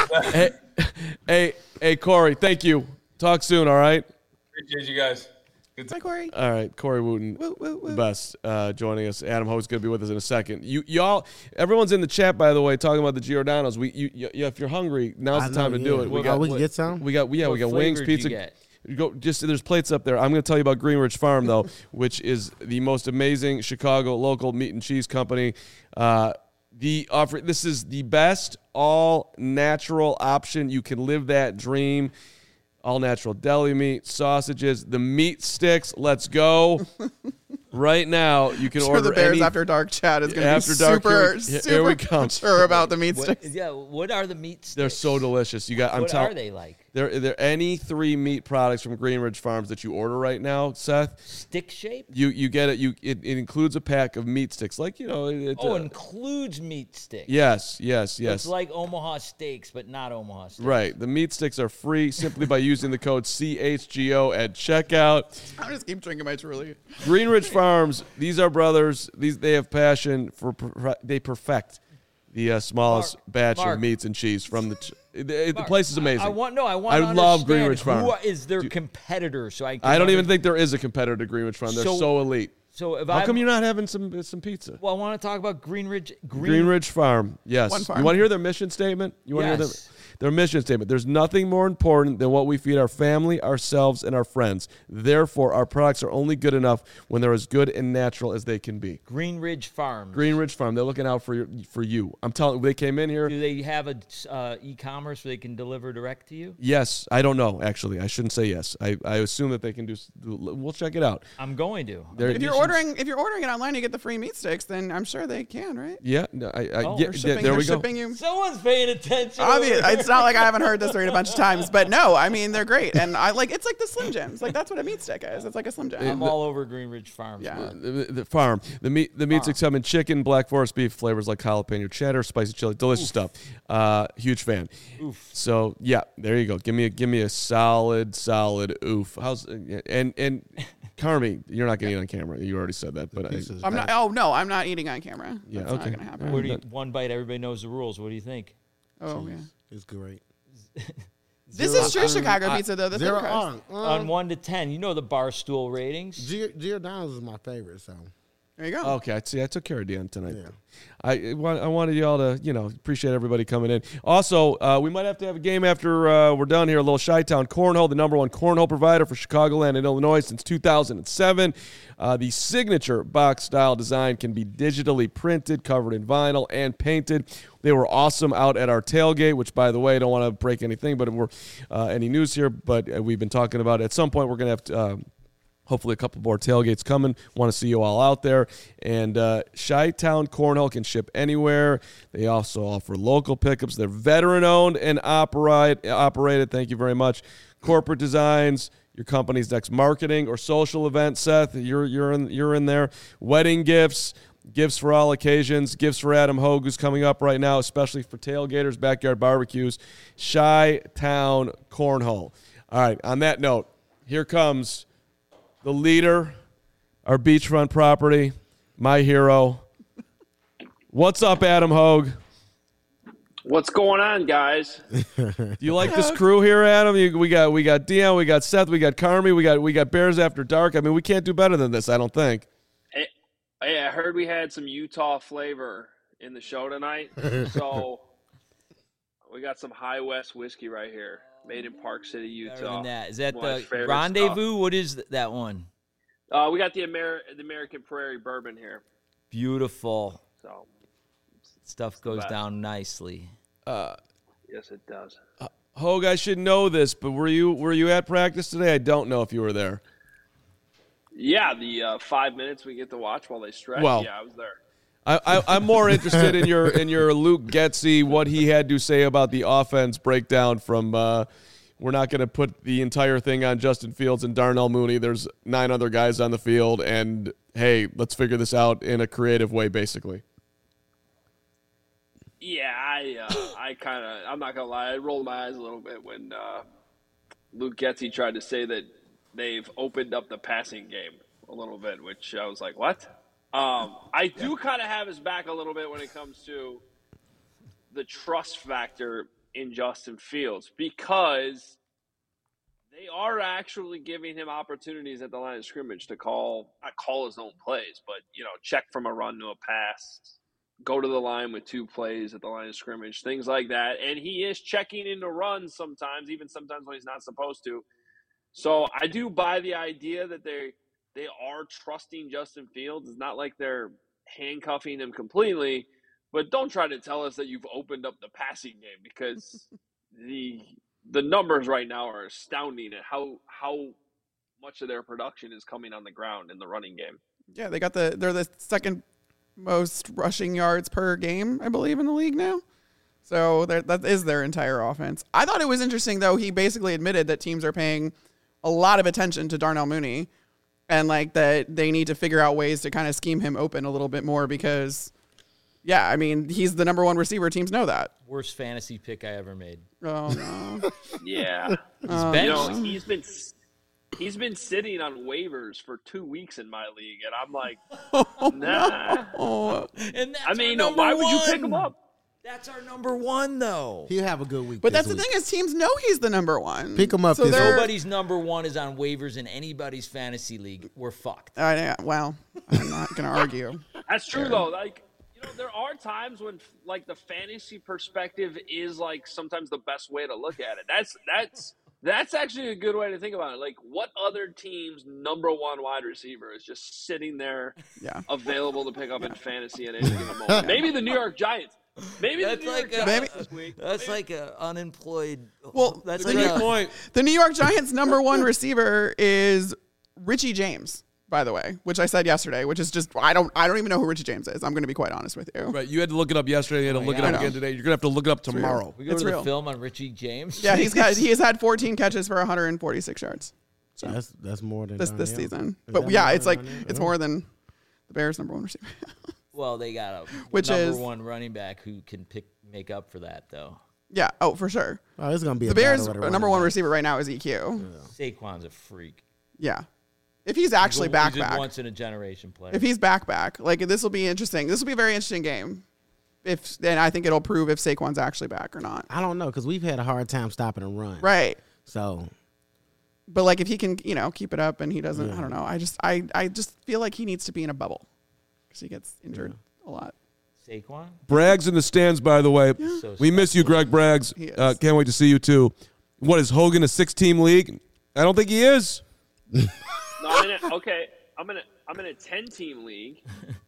Hey, Corey. Thank you. Talk soon. All right. Appreciate you guys. Hi, Corey. All right, Corey Wooten, the best, joining us. Adam Ho's going to be with us in a second. Y'all, everyone's in the chat, by the way, talking about the Giordano's. If you're hungry, now's the time to do it. We can get some. We got wings, pizza. There's plates up there. I'm going to tell you about Greenridge Farm though, which is the most amazing Chicago local meat and cheese company. This is the best all natural option. You can live that dream. All natural deli meat, sausages, the meat sticks. Let's go. Right now, you can order the Bears After Dark chat is going to be super sure about the meat sticks. What are the meat sticks? They're so delicious. What are they like? They're any 3 meat products from Greenridge Farms that you order right now, Seth. Stick shape? You get it. It includes a pack of meat sticks, like includes meat sticks. Yes. It's like Omaha Steaks, but not Omaha Steaks. Right. The meat sticks are free simply by using the code CHGO at checkout. I just keep drinking my Truly. Greenridge Farms. These are brothers. They have passion for. They perfect the smallest batch of meats and cheese from the place is amazing. I love Greenridge Farm. Who is their competitor? I don't even think there is a competitor to Greenridge Farm. They're so elite. So how come you're not having some pizza? Well, I want to talk about Greenridge Farm. Yes. One farm. You want to hear their mission statement? Their mission statement. There's nothing more important than what we feed our family, ourselves, and our friends. Therefore, our products are only good enough when they're as good and natural as they can be. Greenridge Farm. Greenridge Farm. They're looking out for you. I'm telling you, they came in here. Do they have a e-commerce where they can deliver direct to you? Yes. I don't know, actually. I shouldn't say yes. I assume that they can do. We'll check it out. I'm going to. If you're ordering it online, you get the free meat sticks. Then I'm sure they can, right? Yeah. There we go. You. Someone's paying attention. It's not like I haven't heard this story a bunch of times, but no, I mean they're great, and it's like the Slim Jims. Like that's what a meat stick is. It's like a Slim Jim. I'm all over Greenridge Farm. Yeah, the farm. The meat sticks come in chicken, Black Forest beef flavors like jalapeno cheddar, spicy chili, delicious stuff. Huge fan. Oof. So yeah, there you go. Give me a solid oof. And Carmi, you're not going to eat on camera. You already said that, but I'm not. Oh no, I'm not eating on camera. Yeah, that's okay. not gonna happen. One bite, everybody knows the rules. What do you think? Oh yeah, it's great. This is true Chicago pizza though. The on 1 to 10, you know the Barstool ratings. Giordano's is my favorite. So there you go. Okay, I took care of Dan tonight. Yeah. I wanted y'all to appreciate everybody coming in. Also, we might have to have a game after we're done here. A little Chi-Town Cornhole, the #1 cornhole provider for Chicagoland and Illinois since 2007. The signature box style design can be digitally printed, covered in vinyl, and painted. They were awesome out at our tailgate, which, by the way, I don't want to break anything, but we're any news here. But we've been talking about it. At some point we're going to have to. Hopefully a couple more tailgates coming. Want to see you all out there. And Chi-Town Cornhole can ship anywhere. They also offer local pickups. They're veteran-owned and operated. Thank you very much. Corporate designs, your company's next marketing or social event, Seth, you're in there. Wedding gifts, gifts for all occasions, gifts for Adam Hogue, who's coming up right now, especially for tailgaters, backyard barbecues. Chi-Town Cornhole. All right, on that note, here comes the leader, our beachfront property, my hero. What's up, Adam Hogue? What's going on, guys? Do you like this crew here, Adam? We got Dion, we got Seth, we got Carmi, we got Bears After Dark. I mean, we can't do better than this, I don't think. Hey, I heard we had some Utah flavor in the show tonight. So we got some High West whiskey right here, made in Park City, Utah. Better than that. Is that One of my the favorite Rendezvous? stuff. What is that one? We got the American Prairie bourbon here. Beautiful. So Stuff goes best. down nicely. yes, it does. Hogue, I should know this, but were you at practice today? I don't know if you were there. Yeah, the 5 minutes we get to watch while they stretch. Well, yeah, I was there. I'm more interested in your Luke Getsy, what he had to say about the offense breakdown from we're not going to put the entire thing on Justin Fields and Darnell Mooney. There's 9 other guys on the field, and hey, let's figure this out in a creative way, basically. Yeah, I'm not gonna lie, I rolled my eyes a little bit when Luke Getsy tried to say that they've opened up the passing game a little bit, which I was like, what? I do kind of have his back a little bit when it comes to the trust factor in Justin Fields, because they are actually giving him opportunities at the line of scrimmage to not call his own plays, but, check from a run to a pass, go to the line with 2 plays at the line of scrimmage, things like that. And he is checking into runs sometimes, even sometimes when he's not supposed to. So I do buy the idea that they are trusting Justin Fields. It's not like they're handcuffing him completely, but don't try to tell us that you've opened up the passing game, because the numbers right now are astounding at how much of their production is coming on the ground in the running game. Yeah, they're the second most rushing yards per game, I believe, in the league now. So that is their entire offense. I thought it was interesting, though. He basically admitted that teams are paying a lot of attention to Darnell Mooney, and like that they need to figure out ways to kind of scheme him open a little bit more, because, yeah, I mean, he's the number 1 receiver. Teams know that. Worst fantasy pick I ever made. Oh no. Yeah, he's been sitting on waivers for 2 weeks in my league, and I'm like, nah. And that's I mean, our why number would you pick one. him up? That's our number 1, though. He'll have a good week. But this that's the week. thing, is teams know he's the number 1. Pick him up So this they're- Nobody's number 1 is on waivers in anybody's fantasy league. We're fucked. Well, I'm not going to argue. That's true, though. Like, there are times when, like, the fantasy perspective is, like, sometimes the best way to look at it. That's actually a good way to think about it. Like, what other team's number 1 wide receiver is just sitting there available to pick up in fantasy at any given moment? Maybe the New York Giants. Maybe That's the New York like Giants this week. That's like an unemployed. Well, that's the like New- a Point. The New York Giants' number 1 receiver is Richie James, by the way, which I said yesterday, which is just I don't even know who Richie James is. I'm going to be quite honest with you. Right, you had to look it up yesterday. You had to look it God. up again today. You're gonna have to look it up tomorrow. We go It's to the real. film on Richie James. Yeah, he has had 14 catches for 146 yards That's more than this Darnell. season. Is But that yeah, more it's than like Darnell? it's more than the Bears' number 1 receiver. Well, they got a Which number is- 1 running back who can make up for that, though. Yeah, oh, for sure. Oh, it's gonna be The a Bears' battle of the number running 1 backs. receiver right now is EQ. Saquon's a freak. Yeah. If he's actually He's back, a once in a generation player. if he's back, like this will be interesting. This will be a very interesting game. And I think it'll prove if Saquon's actually back or not. I don't know, because we've had a hard time stopping a run. Right. So But like if he can, keep it up and he doesn't, I don't know. I just feel like he needs to be in a bubble because he gets injured a lot. Saquon? Braggs in the stands, by the way. So We miss you, Greg Braggs. He is. Can't wait to see you too. What is Hogan, a 6-team league? I don't think he is. No, I'm in a 10-team league.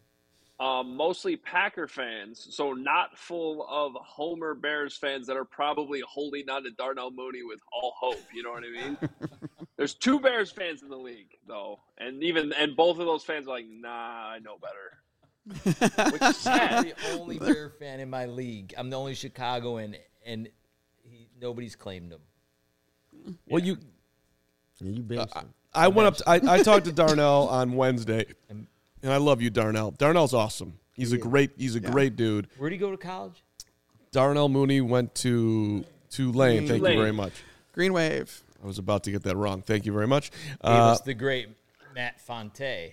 Mostly Packer fans, so not full of Homer Bears fans that are probably holding on to Darnell Mooney with all hope. You know what I mean? There's 2 Bears fans in the league, though, and both of those fans are like, "Nah, I know better." Which is I'm sad. the only Bear fan in my league. I'm the only Chicagoan, and nobody's claimed him. Well, you benched him. I went up. I talked to Darnell on Wednesday, and I love you, Darnell. Darnell's awesome. He's a great dude. Where'd he go to college? Darnell Mooney went to Tulane. Thank you Tulane. very much. Green Wave. I was about to get that wrong. Thank you very much. Gave us the great Matt Fonte.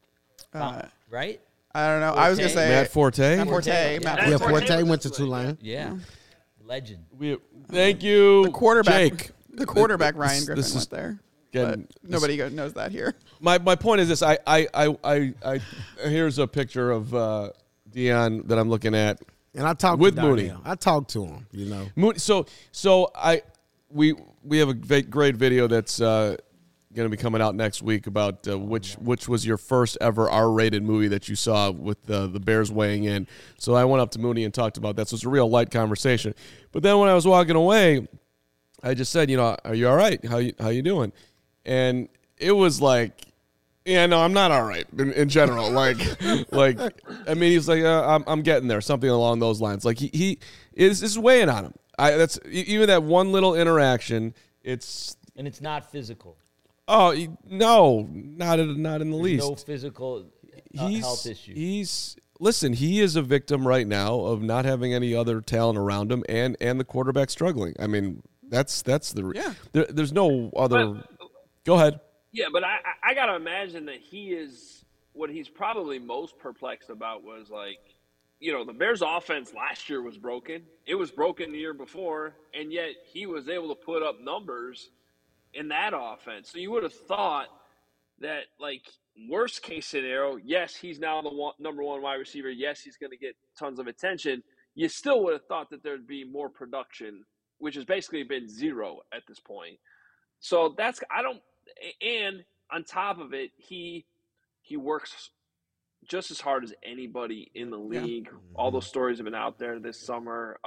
Right? I don't know. I was going to say Matt Forte. Matt Forte. Yeah. Matt Yeah, Forte. Forte went to Tulane. Yeah. Legend. Thank you, The quarterback. Jake. The quarterback Ryan Griffin this is- went there. Again, but nobody knows that here. My point is this: I here's a picture of Deion that I'm looking at, and I talked with to Mooney. I talked to him. You know, Mooney. So we have a great video that's going to be coming out next week about which was your first ever R-rated movie that you saw with the Bears weighing in. So I went up to Mooney and talked about that. So it's a real light conversation. But then when I was walking away, I just said, are you all right? How you doing? And it was like, yeah, no, I'm not all right in general. like, I mean, he's like, I'm getting there, something along those lines. Like he is weighing on him. That's even that one little interaction. And it's not physical. Oh no, not in the least. No physical health issue. Listen. He is a victim right now of not having any other talent around him, and the quarterback struggling. I mean, that's the there's no other. Go ahead. Yeah, but I gotta imagine that what he's probably most perplexed about was like, the Bears' offense last year was broken. It was broken the year before, and yet he was able to put up numbers in that offense. So you would have thought that, like, worst case scenario, yes, he's now the number one wide receiver. Yes, he's going to get tons of attention. You still would have thought that there'd be more production, which has basically been zero at this point. So and on top of it, he works just as hard as anybody in the league. Yeah. All those stories have been out there this summer.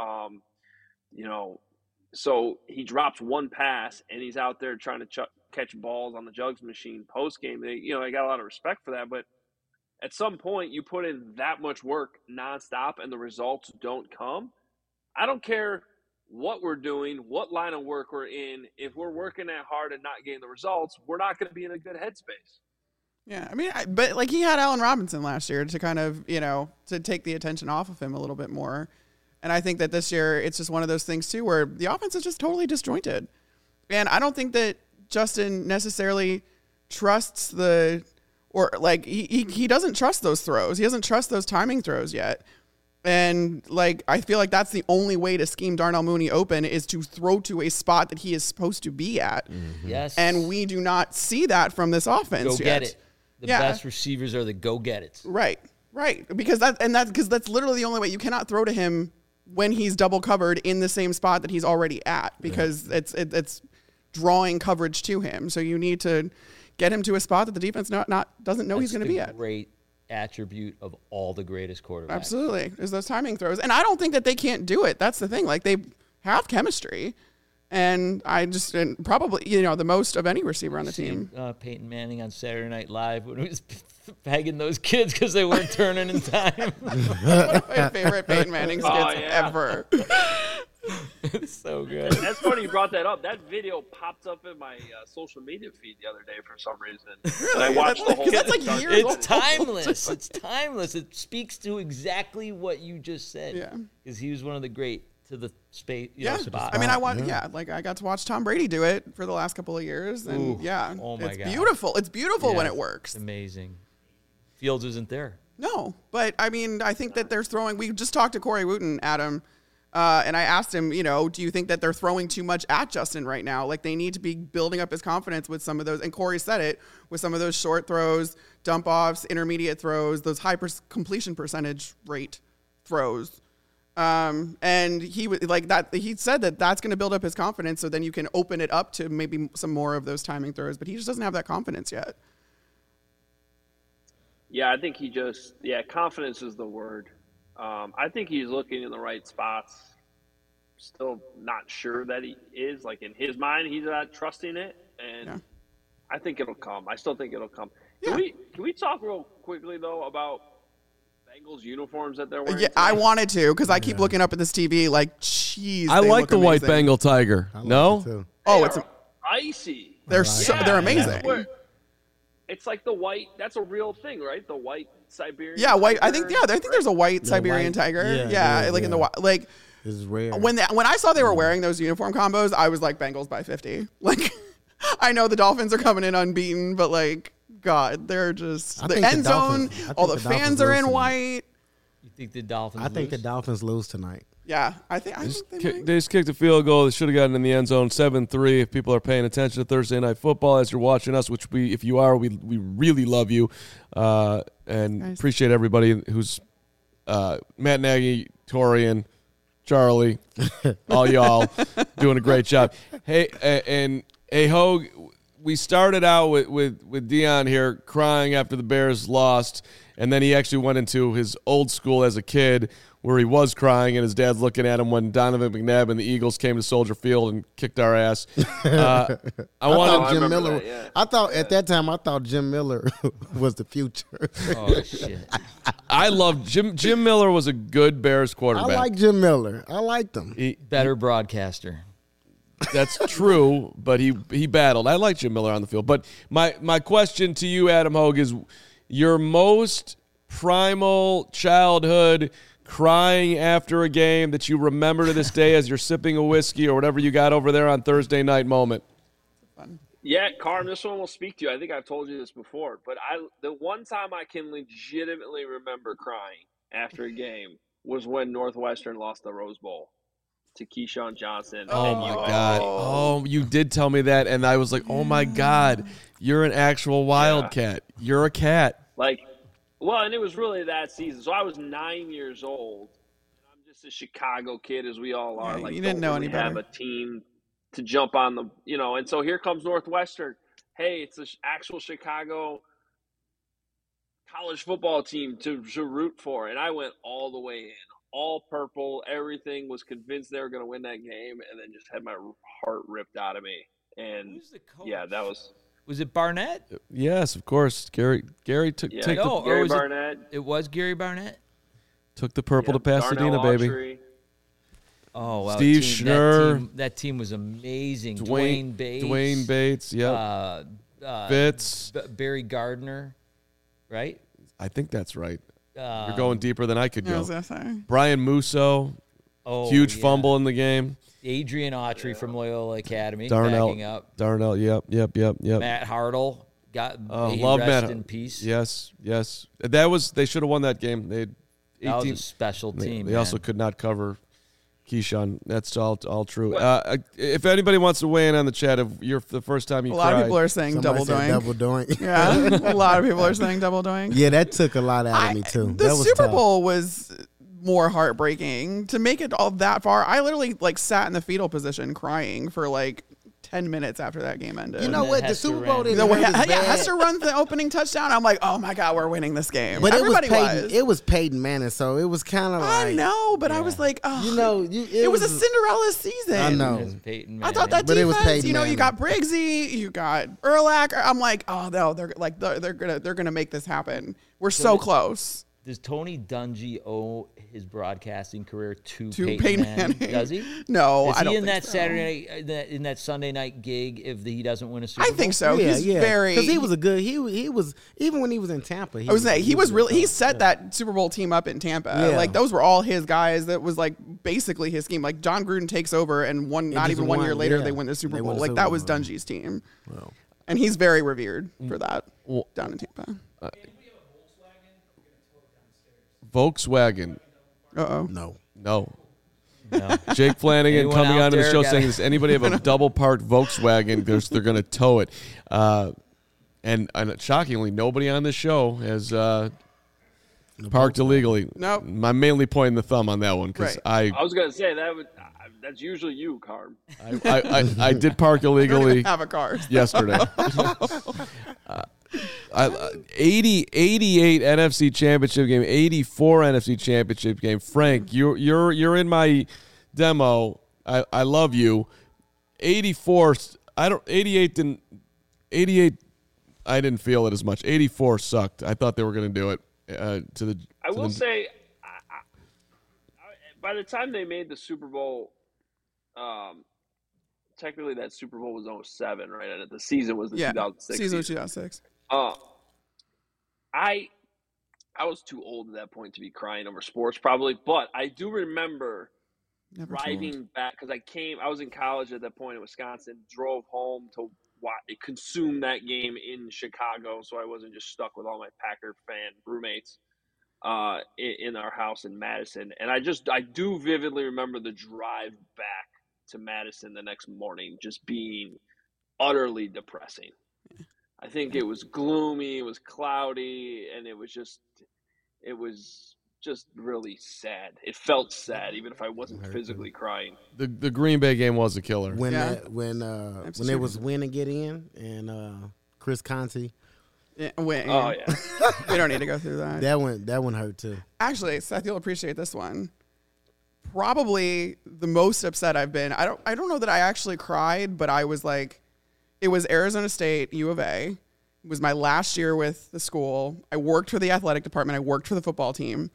So he drops one pass and he's out there trying to catch balls on the jugs machine post game. I got a lot of respect for that, but at some point you put in that much work nonstop and the results don't come. I don't care what we're doing, what line of work we're in. If we're working that hard and not getting the results, we're not going to be in a good headspace. Yeah, I mean, but like he had Allen Robinson last year to kind of, to take the attention off of him a little bit more. And I think that this year it's just one of those things too where the offense is just totally disjointed. And I don't think that Justin necessarily trusts he doesn't trust those throws. He doesn't trust those timing throws yet. And like, I feel like that's the only way to scheme Darnell Mooney open is to throw to a spot that he is supposed to be at. Mm-hmm. Yes. And we do not see that from this offense yet. Go get it. The best receivers are the go-get-its. Right. Because that's literally the only way. You cannot throw to him when he's double covered in the same spot that he's already at because it's drawing coverage to him. So you need to get him to a spot that the defense doesn't know he's going to be at. Great attribute of all the greatest quarterbacks. Absolutely. Is those timing throws. And I don't think that they can't do it. That's the thing. Like they have chemistry. And probably, the most of any receiver on the team. Peyton Manning on Saturday Night Live when he was pegging those kids because they weren't turning in time. One of my favorite Peyton Manning skits ever. It's so good. That's funny you brought that up. That video popped up in my social media feed the other day for some reason. Really? And I watched the whole thing. That's like years old. It's timeless. It's timeless. It speaks to exactly what you just said. Yeah. Because he was one of the great to the space spot. I mean, I got to watch Tom Brady do it for the last couple of years, and oh my God. Beautiful. It's beautiful when it works. It's amazing. Fields isn't there. No, but I mean, I think that they're throwing. We just talked to Corey Wooten, Adam, and I asked him, do you think that they're throwing too much at Justin right now? Like they need to be building up his confidence with some of those. And Corey said it with some of those short throws, dump offs, intermediate throws, those high completion percentage rate throws. And he was like that. He said that that's going to build up his confidence. So then you can open it up to maybe some more of those timing throws, but he just doesn't have that confidence yet. Yeah, I think confidence is the word. I think he's looking in the right spots. Still not sure that he is. Like in his mind, he's not trusting it. And I think it'll come. I still think it'll come. Yeah. Can we talk real quickly though about Bengals uniforms that they're wearing? Yeah, I wanted to because I keep looking up at this TV like, jeez. I like the white Bengal tiger. No? It's icy. They're amazing. It's like the white. That's a real thing, right? The white Siberian. Yeah, white. I think there's a white Siberian tiger. Yeah, like in the like. This is rare. When I saw they were wearing those uniform combos, I was like Bengals by 50. Like, I know the Dolphins are coming in unbeaten, but like, God, they're just the end zone. All the fans are in white. You think the Dolphins? I think the lose? Dolphins lose tonight. Yeah, I think they might. They just kicked a field goal. They should have gotten in the end zone. 7-3. If people are paying attention to Thursday Night Football as you're watching us, which if you are, we really love you, and appreciate everybody who's Matt Nagy, Torian, Charlie, all y'all doing a great job. Hey, and Hogue, we started out with Dion here crying after the Bears lost, and then he actually went into his old school as a kid where he was crying and his dad's looking at him when Donovan McNabb and the Eagles came to Soldier Field and kicked our ass. I wanted Jim Miller. I thought at that time Jim Miller was the future. Oh shit! I love Jim Miller was a good Bears quarterback. I like Jim Miller. I liked him. Better broadcaster. That's true, but he battled. I like Jim Miller on the field. But my question to you, Adam Hogue, is your most primal childhood crying after a game that you remember to this day as you're sipping a whiskey or whatever you got over there on Thursday night moment? Yeah, Carm, this one will speak to you. I think I've told you this before, but the one time I can legitimately remember crying after a game was when Northwestern lost the Rose Bowl to Keyshawn Johnson. Oh, my God. Oh, you did tell me that, and I was like, oh, my God, you're an actual Wildcat. Yeah. You're a cat. Well, and it was really that season. So I was 9 years old. And I'm just a Chicago kid, as we all are. Yeah, you didn't know any better. Have a team to jump on the, and so here comes Northwestern. Hey, it's an actual Chicago college football team to root for. And I went all the way in, all purple, everything, was convinced they were going to win that game, and then just had my heart ripped out of me. And, Who's the coach? Yeah, that was – Was it Barnett? Yes, of course. Gary took Gary Barnett. It was Gary Barnett. Took the purple to Pasadena, Darnell baby. Autry. Oh, wow. Steve Schnurr. That team was amazing. Dwayne Bates, Fitz. Barry Gardner, right? I think that's right. You're going deeper than I could go. I was gonna say. Brian Musso, huge fumble in the game. Adrian Autry from Loyola Academy, Darnell, backing up. Darnell, yep. Matt Hartle love rest Matt in peace. Yes. They should have won that game. They had 18, that was a special team. They also could not cover Keyshawn. That's all true. If anybody wants to weigh in on the chat, if you're the first time you a lot of people are saying double doink. Double doink. Yeah, a lot of people are saying double doink. Yeah, that took a lot out of me too. The Super Bowl was more heartbreaking. To make it all that far, I literally sat in the fetal position crying for 10 minutes after that game ended. You know what? The Super Bowl didn't Hester runs the opening touchdown. I'm like, oh my God, we're winning this game. But everybody it was Peyton Manning, so it was kind of I know, but I was like, oh, it was a Cinderella season. I know. I thought that defense, you got Briggsy, you got Urlacher. I'm like, oh no, they're gonna make this happen. We're so close. Does Tony Dungy owe his broadcasting career to Peyton Manning? Does he? No, I don't. Is he in that so. Saturday night, in that Sunday night gig if he doesn't win a Super Bowl? I think so. Yeah, he's very because he was a good. He was even when he was in Tampa. He set that Super Bowl team up in Tampa. Yeah. Those were all his guys. That was basically his scheme. John Gruden takes over, and not even 1 year later they win the Super Bowl. That was Dungy's team, and he's very revered for that down in Tampa. Volkswagen. No. Jake Flanagan Anyone coming out onto the there show got saying, does anybody have a double parked Volkswagen? Because they're going to tow it. And shockingly, nobody on this show has parked illegally. Nope. I'm mainly pointing the thumb on that one because I was going to say that's usually you, Carm. I did park illegally. Have a car yesterday. 88 NFC Championship game, 84 NFC Championship game. Frank, you're in my demo. I love you. 84. 88. I didn't feel it as much. 84 sucked. I thought they were going to do it. I will say, by the time they made the Super Bowl, technically that Super Bowl was 2007, right? And the season was the 2006 season. Was 2006. I was too old at that point to be crying over sports, probably, but I do remember driving back because I was in college at that point in Wisconsin, drove home to consume that game in Chicago, so I wasn't just stuck with all my Packer fan roommates. in our house in Madison. And I do vividly remember the drive back to Madison the next morning just being utterly depressing. I think it was gloomy, it was cloudy, and it was just really sad. It felt sad, even if I wasn't physically crying. The Green Bay game was a killer. When it was win and get in, and Chris Conti. Yeah. Oh yeah, we don't need to go through that. That one hurt too. Actually, Seth, you'll appreciate this one. Probably the most upset I've been. I don't know that I actually cried, but I was like, it was Arizona State, U of A. It was my last year with the school. I worked for the athletic department. I worked for the football team.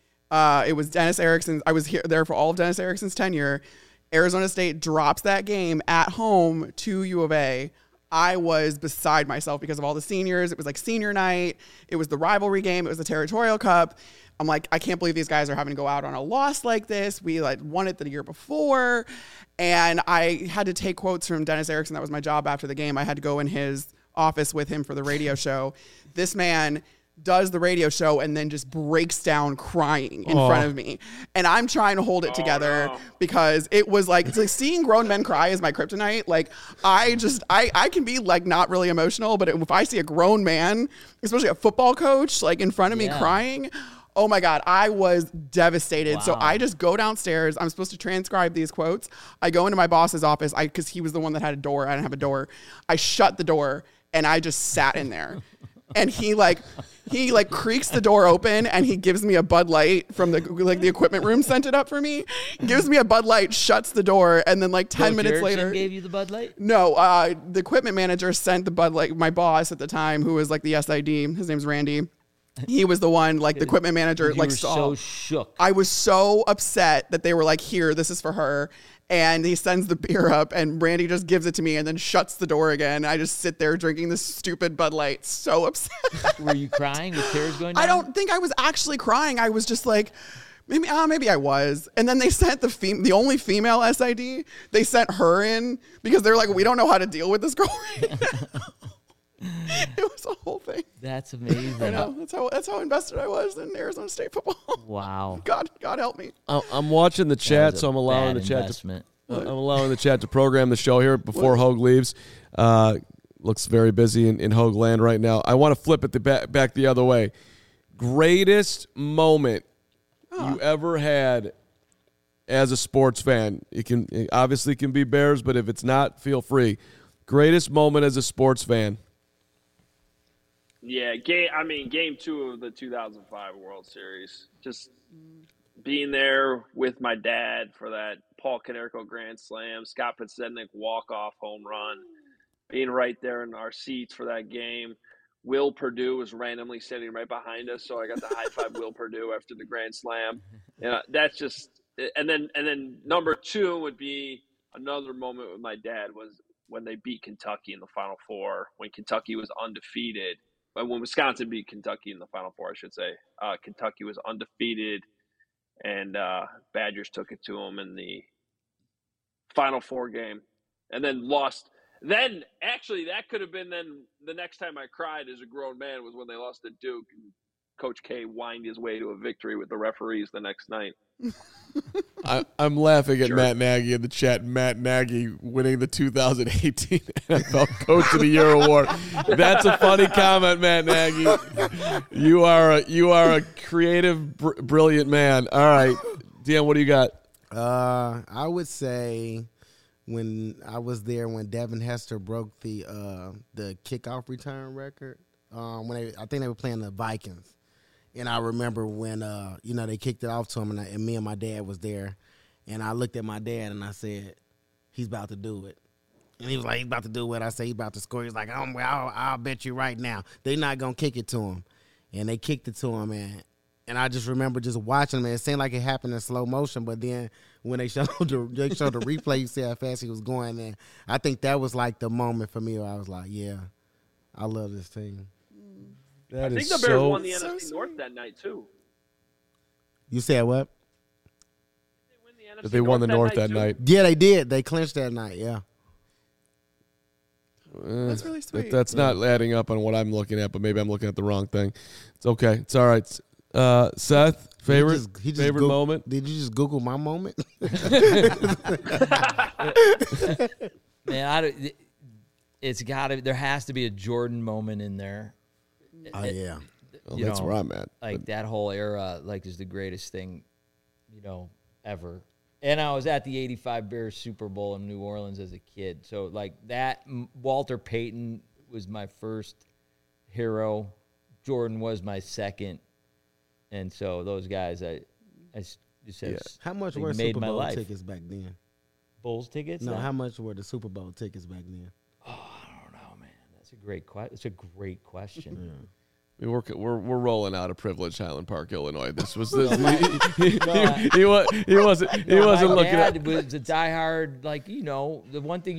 It was Dennis Erickson. I was there for all of Dennis Erickson's tenure. Arizona State drops that game at home to U of A. I was beside myself because of all the seniors. It was like senior night. It was the rivalry game. It was the Territorial Cup. I'm like, I can't believe these guys are having to go out on a loss like this. We won it the year before. And I had to take quotes from Dennis Erickson. That was my job after the game. I had to go in his office with him for the radio show. This man does the radio show and then just breaks down crying in front of me. And I'm trying to hold it together because it was like, it's like seeing grown men cry is my kryptonite. Like I can be like not really emotional, but if I see a grown man, especially a football coach, like in front of me crying, oh my God, I was devastated. Wow. So I just go downstairs. I'm supposed to transcribe these quotes. I go into my boss's office because he was the one that had a door. I didn't have a door. I shut the door and I just sat in there. And he creaks the door open and he gives me a Bud Light from the equipment room sent it up for me. Gives me a Bud Light, shuts the door, and then 10 minutes later gave you the Bud Light? No, the equipment manager sent the Bud Light. My boss at the time, who was the SID, his name's Randy. He was the one, the equipment manager, you were saw. So shook. I was so upset that they were like, here, this is for her. And he sends the beer up, and Randy just gives it to me and then shuts the door again. I just sit there drinking this stupid Bud Light, so upset. Were you crying with tears going down? I don't think I was actually crying. I was just like, maybe I was. And then they sent the only female SID, they sent her in because they're like, we don't know how to deal with this girl right now. It was a whole thing. That's amazing. I know. That's how invested I was in Arizona State football. Wow. God help me. I'm watching the chat, so I'm allowing the chat to program the show here before Hogue leaves. Looks very busy in Hogue land right now. I want to flip it back the other way. Greatest moment you ever had as a sports fan? It obviously can be Bears, but if it's not, feel free. Greatest moment as a sports fan. Yeah, game 2 of the 2005 World Series. Just being there with my dad for that Paul Konerko grand slam, Scott Podsednik walk-off home run, being right there in our seats for that game. Will Perdue was randomly sitting right behind us, so I got to high-five Will Perdue after the grand slam. That's just – and then number 2 would be another moment with my dad was when they beat Kentucky in the Final Four, when Kentucky was undefeated. When Wisconsin beat Kentucky in the Final Four, I should say. Kentucky was undefeated, and Badgers took it to them in the Final Four game, and then lost. Then, actually, that could have been then the next time I cried as a grown man was when they lost at Duke, and Coach K whined his way to a victory with the referees the next night. I'm laughing at Matt Nagy in the chat. Matt Nagy winning the 2018 NFL Coach of the Year award. That's a funny comment, Matt Nagy. You are a creative, brilliant man. All right, Dan, what do you got? I would say when I was there when Devin Hester broke the kickoff return record. I think they were playing the Vikings. And I remember when, they kicked it off to him, and me and my dad was there. And I looked at my dad, and I said, he's about to do it. And he was like, he's about to do what I say, he's about to score. He's like, I'll bet you right now. They're not going to kick it to him. And they kicked it to him, and I just remember just watching him. It seemed like it happened in slow motion, but then when they showed the replay, you see how fast he was going. And I think that was like the moment for me where I was like, yeah, I love this team. I think the Bears won the NFC North that night, too. You said what? They won the North that night. Yeah, they did. They clinched that night, yeah. That's really sweet. That's not adding up on what I'm looking at, but maybe I'm looking at the wrong thing. It's okay. It's all right. Seth, favorite Google, moment? Did you just Google my moment? Man, it's got to. There has to be a Jordan moment in there. Oh yeah. Well, that's where I'm at. Like that whole era, like is the greatest thing, ever. And I was at the '85 Bears Super Bowl in New Orleans as a kid, so like that. Walter Payton was my first hero. Jordan was my second, and so those guys, I just said, How much they were made Super my Bowl life. tickets back then? Bulls tickets? No, how much were the Super Bowl tickets back then? Oh, I don't know, man. That's a great question. It's a great question. I mean, we're rolling out of privileged Highland Park, Illinois. This was this. He wasn't My looking at. dad was a diehard, the one thing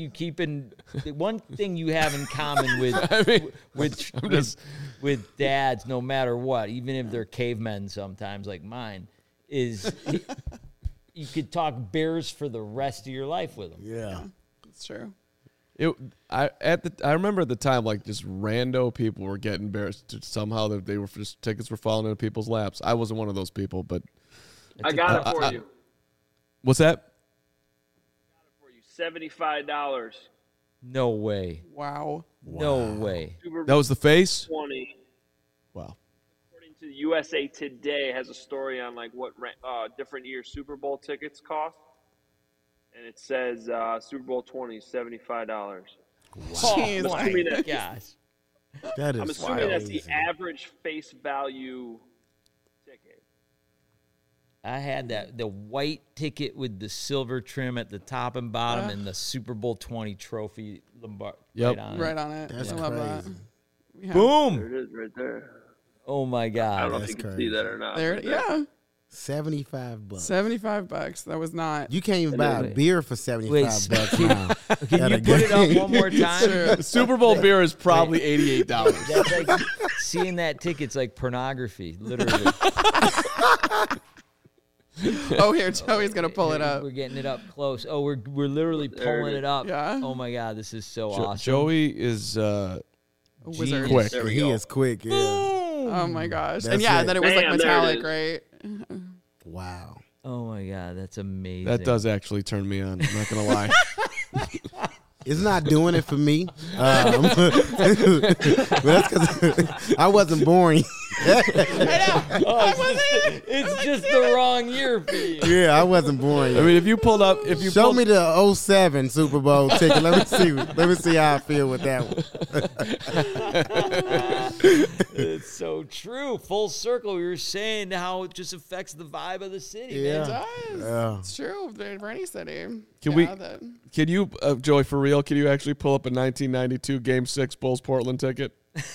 you have in common with with dads, no matter what, even if they're cavemen sometimes like mine, is you could talk Bears for the rest of your life with them. Yeah, That's true. I remember at the time, like, just rando people were getting embarrassed. Somehow they were just tickets were falling into people's laps. I wasn't one of those people, but I got it for you. What's that? For you, $75. No way. Wow. No way. Super That was the face. 20. Wow. According to USA Today, has a story on like what different year Super Bowl tickets cost, and it says Super Bowl 20 $75. Jeez, Oh my like- gosh. that is. I'm assuming that's the crazy. average face value ticket. I had the white ticket with the silver trim at the top and bottom and the Super Bowl 20 trophy Lombard Yep. Right on it. That's I love crazy. that. Yeah. Boom. There it is, right there. Oh my I don't God. know That's if you can crazy. see that or not. There, but yeah, $75. $75. That was not. You can't even buy a beer for $75 now. Can you put it up one more time? Super Bowl beer is probably $88. That's like seeing that ticket's like pornography, literally. Oh, here, Joey's gonna pull it up. We're getting it up close. Oh, we're literally pulling it up. Yeah. Oh my God, this is so awesome. Joey is A wizard. quick. There we He go. is quick. Yeah. Oh my gosh. That's And yeah, it. then it was like Bam, there it metallic, is. right? Wow. Oh my God, that's amazing. That does actually turn me on. I'm not gonna lie. It's not doing it for me. But that's because I wasn't born. It's just the wrong year for you. Yeah, I wasn't born I yet. mean, if you pulled up, Show me the 07 Super Bowl ticket. Let me see how I feel with that one. It's so true. Full circle. We were saying how it just affects the vibe of the city. Man. It does. Yeah. It's true for any city. Can you, Joey, for real, can you actually pull up a 1992 Game 6 Bulls Portland ticket?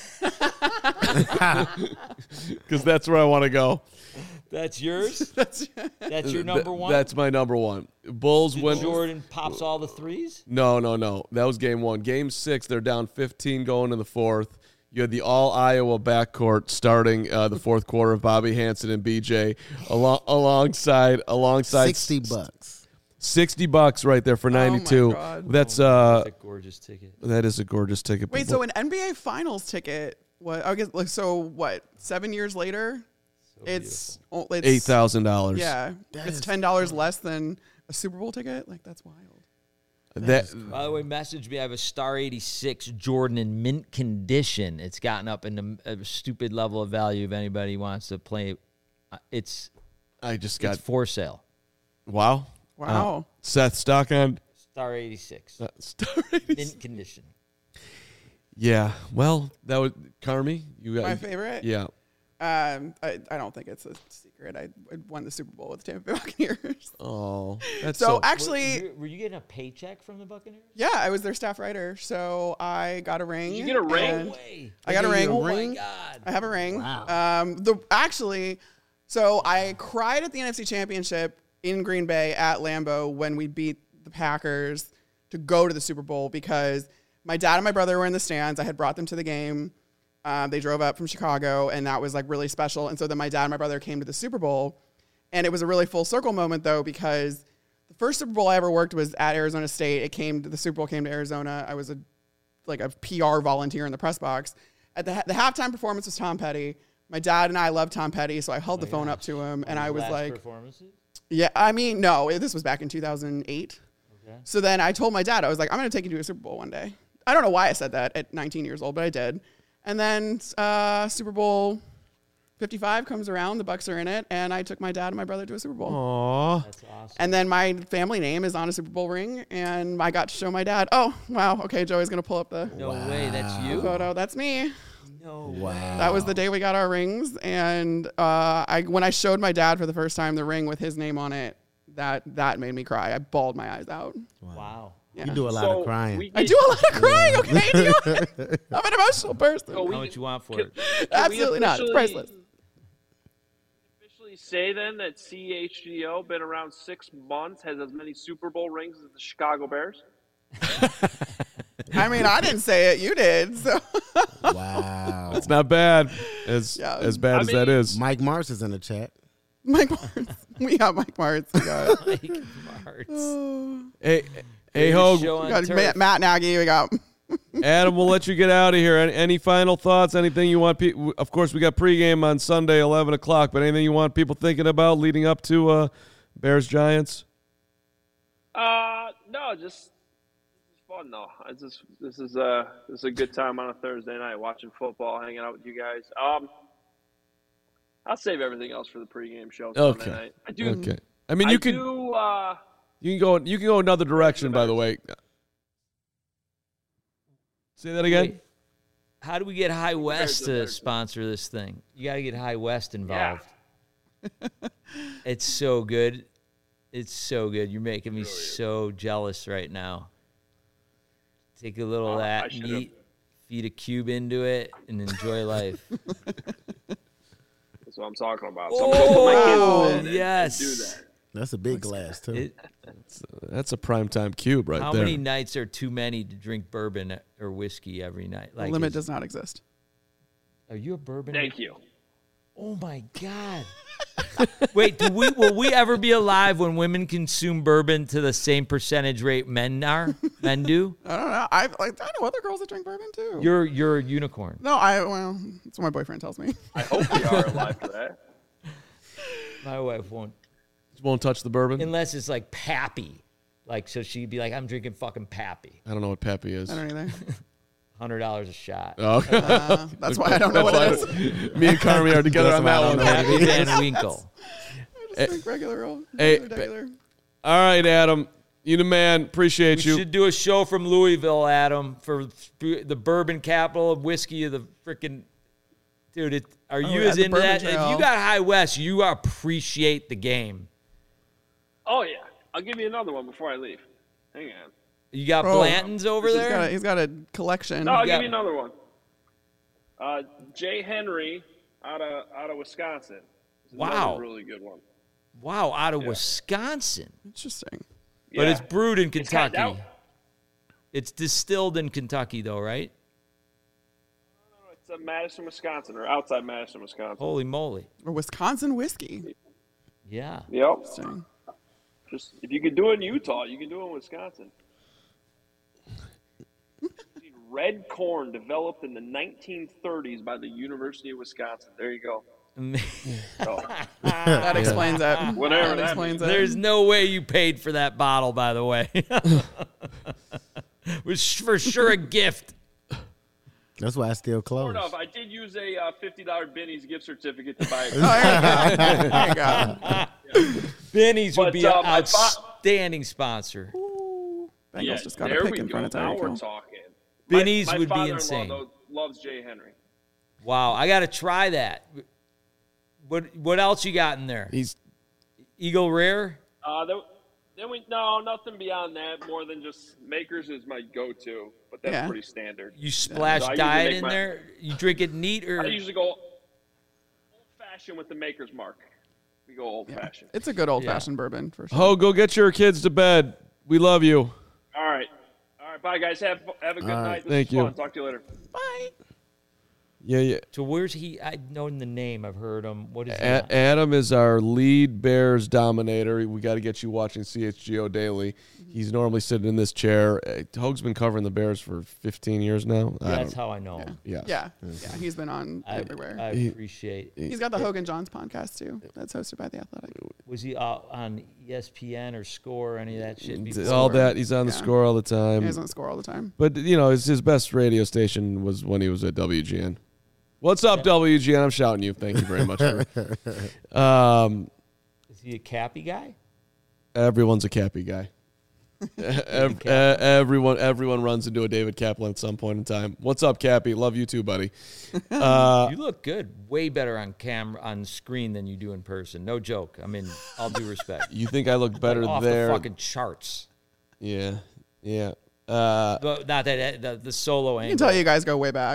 Because that's where I want to go. That's yours? That's your number one? That's my number one. Bulls Did win. Jordan pops all the threes? No. That was game one. Game 6, they're down 15 going in the fourth. You had the all-Iowa backcourt starting the fourth quarter of Bobby Hansen and BJ alongside $60. $60 right there for 92. God. That's That's a gorgeous ticket. that is a gorgeous ticket. Wait, so an NBA Finals ticket? What? I guess like so. What? 7 years later, it's $8,000. Yeah, it's $10 less than a Super Bowl ticket. Like that's wild. By the way, message me. I have a Star 86 Jordan in mint condition. It's gotten up in a stupid level of value. If anybody wants to play, it's for sale. Wow. Wow. Seth, stock on Star 86. Star 86. Mint condition. Yeah. Well, that was Carmi. You got My favorite. Yeah. I don't think it's a secret. I won the Super Bowl with the Tampa Bay Buccaneers. Oh, that's So actually, Were you getting a paycheck from the Buccaneers? yeah, I was their staff writer. So I got a ring. You get a ring? and No way. I got a ring. Oh my God. I have a ring. Wow. So I cried at the NFC Championship in Green Bay at Lambeau when we beat the Packers to go to the Super Bowl because my dad and my brother were in the stands. I had brought them to the game. They drove up from Chicago, and that was like really special. And so then my dad and my brother came to the Super Bowl, and it was a really full circle moment though because the first Super Bowl I ever worked was at Arizona State. The Super Bowl came to Arizona. I was a PR volunteer in the press box. At the halftime performance was Tom Petty. My dad and I love Tom Petty, so I held the phone up to him, and I was Last like, performances? yeah, I mean, no, this was back in 2008. Okay. So then I told my dad, I was like, I'm going to take you to a Super Bowl one day. I don't know why I said that at 19 years old, but I did. And then Super Bowl 55 comes around, the Bucs are in it, and I took my dad and my brother to a Super Bowl. Aww. That's awesome. And then my family name is on a Super Bowl ring, and I got to show my dad, oh, wow, okay, Joey's going to pull up the No way, that's you? photo. That's me. No Wow. That was the day we got our rings, and when I showed my dad for the first time the ring with his name on it, that made me cry. I bawled my eyes out. Wow. Yeah. You do a lot of crying. I do a lot of crying. Okay, I'm an emotional person. So How much you want for it? Absolutely not. It's priceless. Officially say then that CHGO been around 6 months, has as many Super Bowl rings as the Chicago Bears. I mean, I didn't say it. You did. So. Wow. It's not bad. As bad as that mean, is. Mike Mars is in the chat. Mike Martz. We got Mike Martz. We got, Mike Martz. Hey, Hogue. Show we on got turf. Matt Nagy. We got. Adam, we'll let you get out of here. Any final thoughts? Anything you want? Of course, we got pregame on Sunday, 11 o'clock. But anything you want people thinking about leading up to Bears Giants? No, just this is fun though. This is a good time on a Thursday night watching football, hanging out with you guys. I'll save everything else for the pregame show Sunday night. I do. Okay. I mean, you can go another direction. By the way. Say that again. Wait, how do we get High West to sponsor this thing? You got to get High West involved. Yeah. It's so good. It's so good. You're making me so jealous right now. Take a little of that meat, feed a cube into it, and enjoy life. That's what I'm talking about. So I'm going to put my kids in yes. and do that. That's a big glass, too. That's a primetime cube right How there. many nights are too many to drink bourbon or whiskey every night? The limit does not exist. Are you a bourbon? Thank you. Oh, my God. Wait, will we ever be alive when women consume bourbon to the same percentage rate men do? I don't know. I know other girls that drink bourbon, too. You're a unicorn. No, that's what my boyfriend tells me. I hope we are alive for that. My wife won't touch the bourbon unless it's like Pappy. Like, so she'd be like, I'm drinking fucking Pappy. I don't know what Pappy is. I don't either. $100 a shot. Oh, okay. That's why I don't know what it is. Me and Carmi are together on that one. Pappy Van Winkle. I just drink regular old. Hey, regular. All right, Adam. You the man. Appreciate you. We should do a show from Louisville, Adam, for the bourbon capital of whiskey of the freaking... Dude, are you as into that? If you got High West, you appreciate the game. Oh, yeah. I'll give you another one before I leave. Hang on. You got Blanton's over there? He's got a collection. No, I'll give you another one. Jay Henry out of Wisconsin. Wow. Really good one. Wow, out of Wisconsin. Interesting. But it's brewed in Kentucky. It's distilled in Kentucky, though, right? No, it's Madison, Wisconsin, or outside Madison, Wisconsin. Holy moly. Or Wisconsin whiskey. Yeah. Yep. Interesting. Just if you could do it in Utah, you can do it in Wisconsin. Red corn developed in the 1930s by the University of Wisconsin. There you go. That explains it. Whatever that explains it. There's no way you paid for that bottle, by the way. It was for sure a gift. That's why I still close. Sort of. I did use a $50 Benny's gift certificate to buy it. There you go. Benny's would be an outstanding sponsor. Bengals just got a pick in front of Tyreek Now we're Hill. talking. Benny's my would be father-in-law, insane. though, loves Jay Henry. Wow, I got to try that. What else you got in there? He's Eagle Rare? Nothing beyond that. More than just Makers is my go-to, but that's pretty standard. You splash So diet in there? You drink it neat or? I usually go old-fashioned with the Maker's Mark. We go old-fashioned. It's a good old-fashioned bourbon for sure. Ho, go get your kids to bed. We love you. All right. Bye, guys. Have a good night. This Thank was you. fun. Talk to you later. Bye. Yeah. So where's he? I've known the name. I've heard him. What is he? Adam is our lead Bears dominator. We got to get you watching CHGO daily. He's normally sitting in this chair. Hoag's been covering the Bears for 15 years now. That's how I know him. Yeah. He's been on everywhere. I appreciate it. He's got the Hogan Johns podcast, too. That's hosted by The Athletic. Was he on ESPN or Score or any of that shit before? All that. He's on the Score all the time. He's on the Score all the time. But, his best radio station was when he was at WGN. What's up, WGN? I'm shouting you. Thank you very much. Is he a Cappy guy? Everyone's a Cappy guy. Everyone runs into a David Kaplan at some point in time. What's up, Cappy? Love you too, buddy. You look good. Way better on screen than you do in person. No joke. I mean, all due respect. You think I look better off there? The fucking charts. Yeah. But not that the solo angle. I can tell you guys go way back.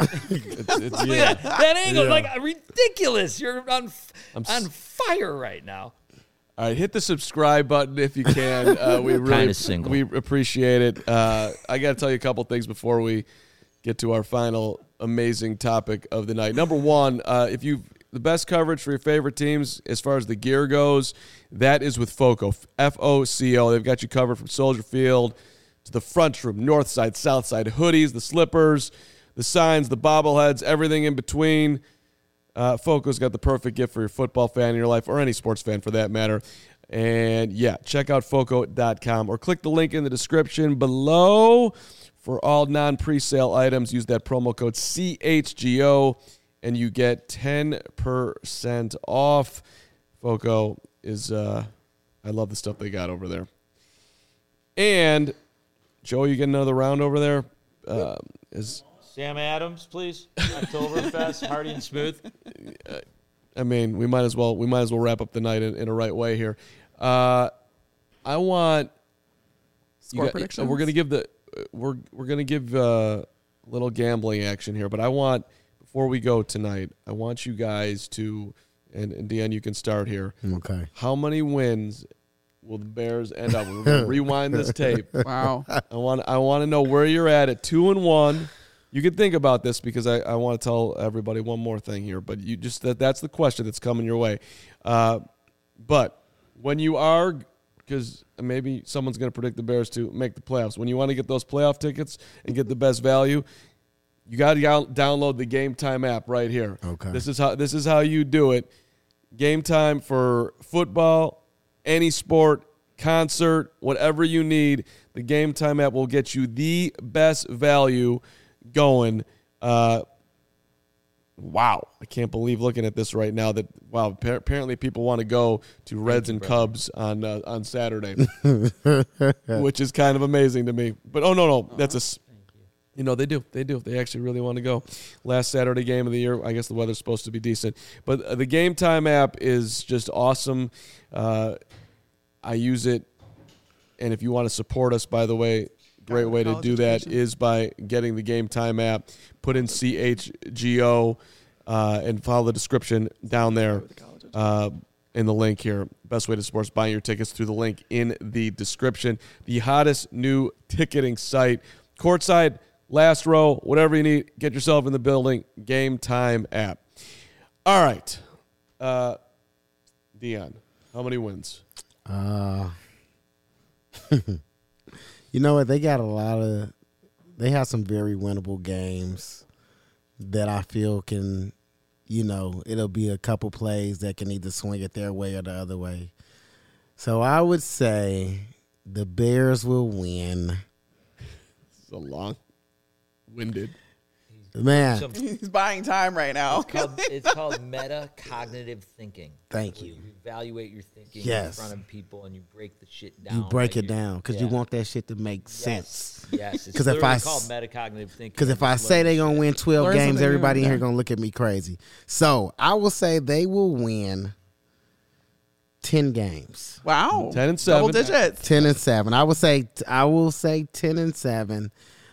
That angle is like ridiculous. You're on fire right now. All right, hit the subscribe button if you can. We really we appreciate it. I got to tell you a couple things before we get to our final amazing topic of the night. Number one, the best coverage for your favorite teams as far as the gear goes, that is with FOCO, FOCO. They've got you covered from Soldier Field to the front room, north side, south side, hoodies, the slippers, the signs, the bobbleheads, everything in between. FOCO's got the perfect gift for your football fan in your life, or any sports fan for that matter. And, check out FOCO.com or click the link in the description below for all non-presale items. Use that promo code CHGO, and you get 10% off. FOCO is, I love the stuff they got over there. And, Joe, you get another round over there? Sam Adams, please. Oktoberfest, Hardy and Smooth. I mean, we might as well wrap up the night in a right way here. I want Score predictions. We're gonna give a little gambling action here, but I want, before we go tonight, I want you guys to, and Deanne, you can start here. Okay. How many wins will the Bears end up? We're gonna rewind this tape. Wow. I want to know where you're at 2-1. You can think about this because I want to tell everybody one more thing here, but you just that's the question that's coming your way. But when you are, because maybe someone's going to predict the Bears to make the playoffs, when you want to get those playoff tickets and get the best value, you got to download the Game Time app right here. Okay. This is how you do it. Game Time for football, any sport, concert, whatever you need. The Game Time app will get you the best value going. Wow, I can't believe looking at this right now that apparently people want to go to Reds and Cubs on Saturday, which is kind of amazing to me. But no, that's they do they actually really want to go. Last Saturday game of the year, I guess the weather's supposed to be decent, but the Game Time app is just awesome. I use it, and if you want to support us, by the way, great way to do that is by getting the Game Time app, put in CHGO, and follow the description down there in the link here. Best way to support us, buying your tickets through the link in the description. The hottest new ticketing site, courtside, last row, whatever you need, get yourself in the building, Game Time app. All right. Dion, how many wins? You know what? They got they have some very winnable games that I feel can, it'll be a couple plays that can either swing it their way or the other way. So I would say the Bears will win. It's a long-winded. Man. He's buying time right now. It's called metacognitive thinking. Thank you. You evaluate your thinking Yes. in front of people and you break the shit down. You break it down because you want that shit to make sense. Yes. It's Because if called metacognitive thinking. Because if I say they're going to win 12 Learn games, something everybody in new. here going to look at me crazy. So I will say they will win 10 games. Wow. 10-7. Double digits. 10-7. I will say 10-7.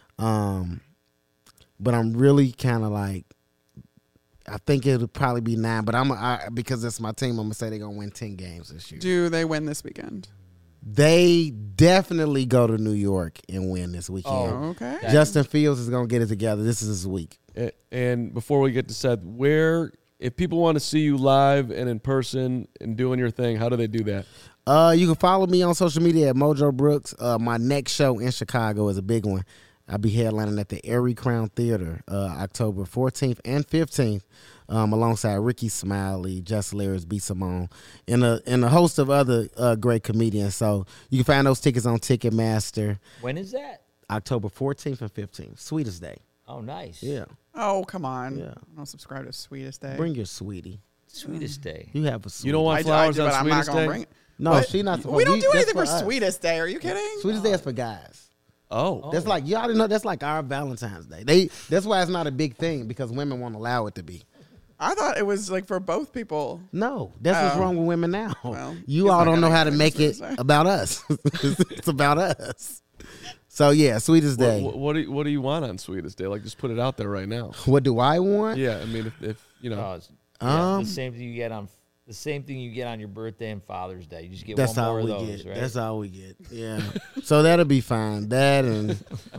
But I'm really kind of like, I think it'll probably be 9. But because it's my team, I'm gonna say they're gonna win 10 games this year. Do they win this weekend? They definitely go to New York and win this weekend. Oh, okay. Justin Fields is gonna get it together. This is his week. And before we get to Seth, if people want to see you live and in person and doing your thing, how do they do that? You can follow me on social media at Mojo Brooks. My next show in Chicago is a big one. I'll be headlining at the Erie Crown Theater October 14th and 15th alongside Ricky Smiley, Just Hilarious, B. Simone, and a host of other great comedians. So you can find those tickets on Ticketmaster. When is that? October 14th and 15th. Sweetest Day. Oh, nice. Yeah. Oh, come on. Yeah. I don't subscribe to Sweetest Day. Bring your sweetie. Sweetest Day. You have a sweetie. You don't want flowers on I'm not Sweetest gonna Day? bring it. No, What? she not supposed We don't do that's anything for us. Sweetest Day. Are you kidding? Sweetest Day is for guys. Oh. That's like, you already know, that's like our Valentine's Day. That's why it's not a big thing, because women won't allow it to be. I thought it was like for both people. No, that's what's wrong with women now. Well, you he's all not don't know gonna how to get make it Sweetest Day. about us. It's about us. So yeah, Sweetest Day. What do you want on Sweetest Day? Like, just put it out there right now. What do I want? Yeah, I mean, if you know. Oh, the same thing you get on your birthday and Father's Day. You just get That's one all more we of those, get. right? That's all we get. Yeah. So that'll be fine. That and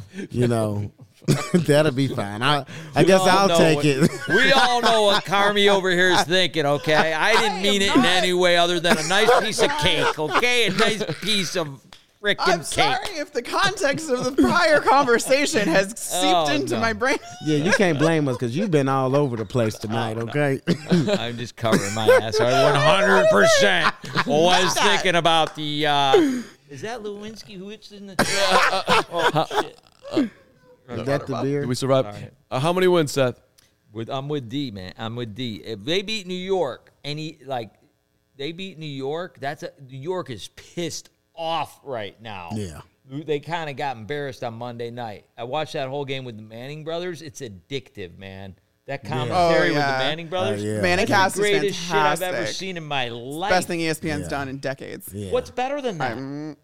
that'll be fine. I guess all I'll know take what- it. We all know what Carmi over here is thinking, okay? I didn't mean it in any way other than a nice piece of cake, okay? A nice piece of freaking I'm cake. sorry if the context of the prior conversation has seeped into no. my brain. Yeah, you can't blame us because you've been all over the place tonight. Okay. I'm just covering my ass. I 100% was thinking about the. Is that Lewinsky who it's in the? Oh shit! Is that the beer? Did we survive? Right. How many wins, Seth? I'm with D, man. I'm with D. If they beat New York, they beat New York. New York is pissed off right now. Yeah. They kind of got embarrassed on Monday night. I watched that whole game with the Manning brothers. It's addictive, man. That commentary with the Manning brothers. yeah. Manning That's cast the is greatest shit I've ever fantastic. seen in my life. Best thing ESPN's done in decades. Yeah. What's better than that?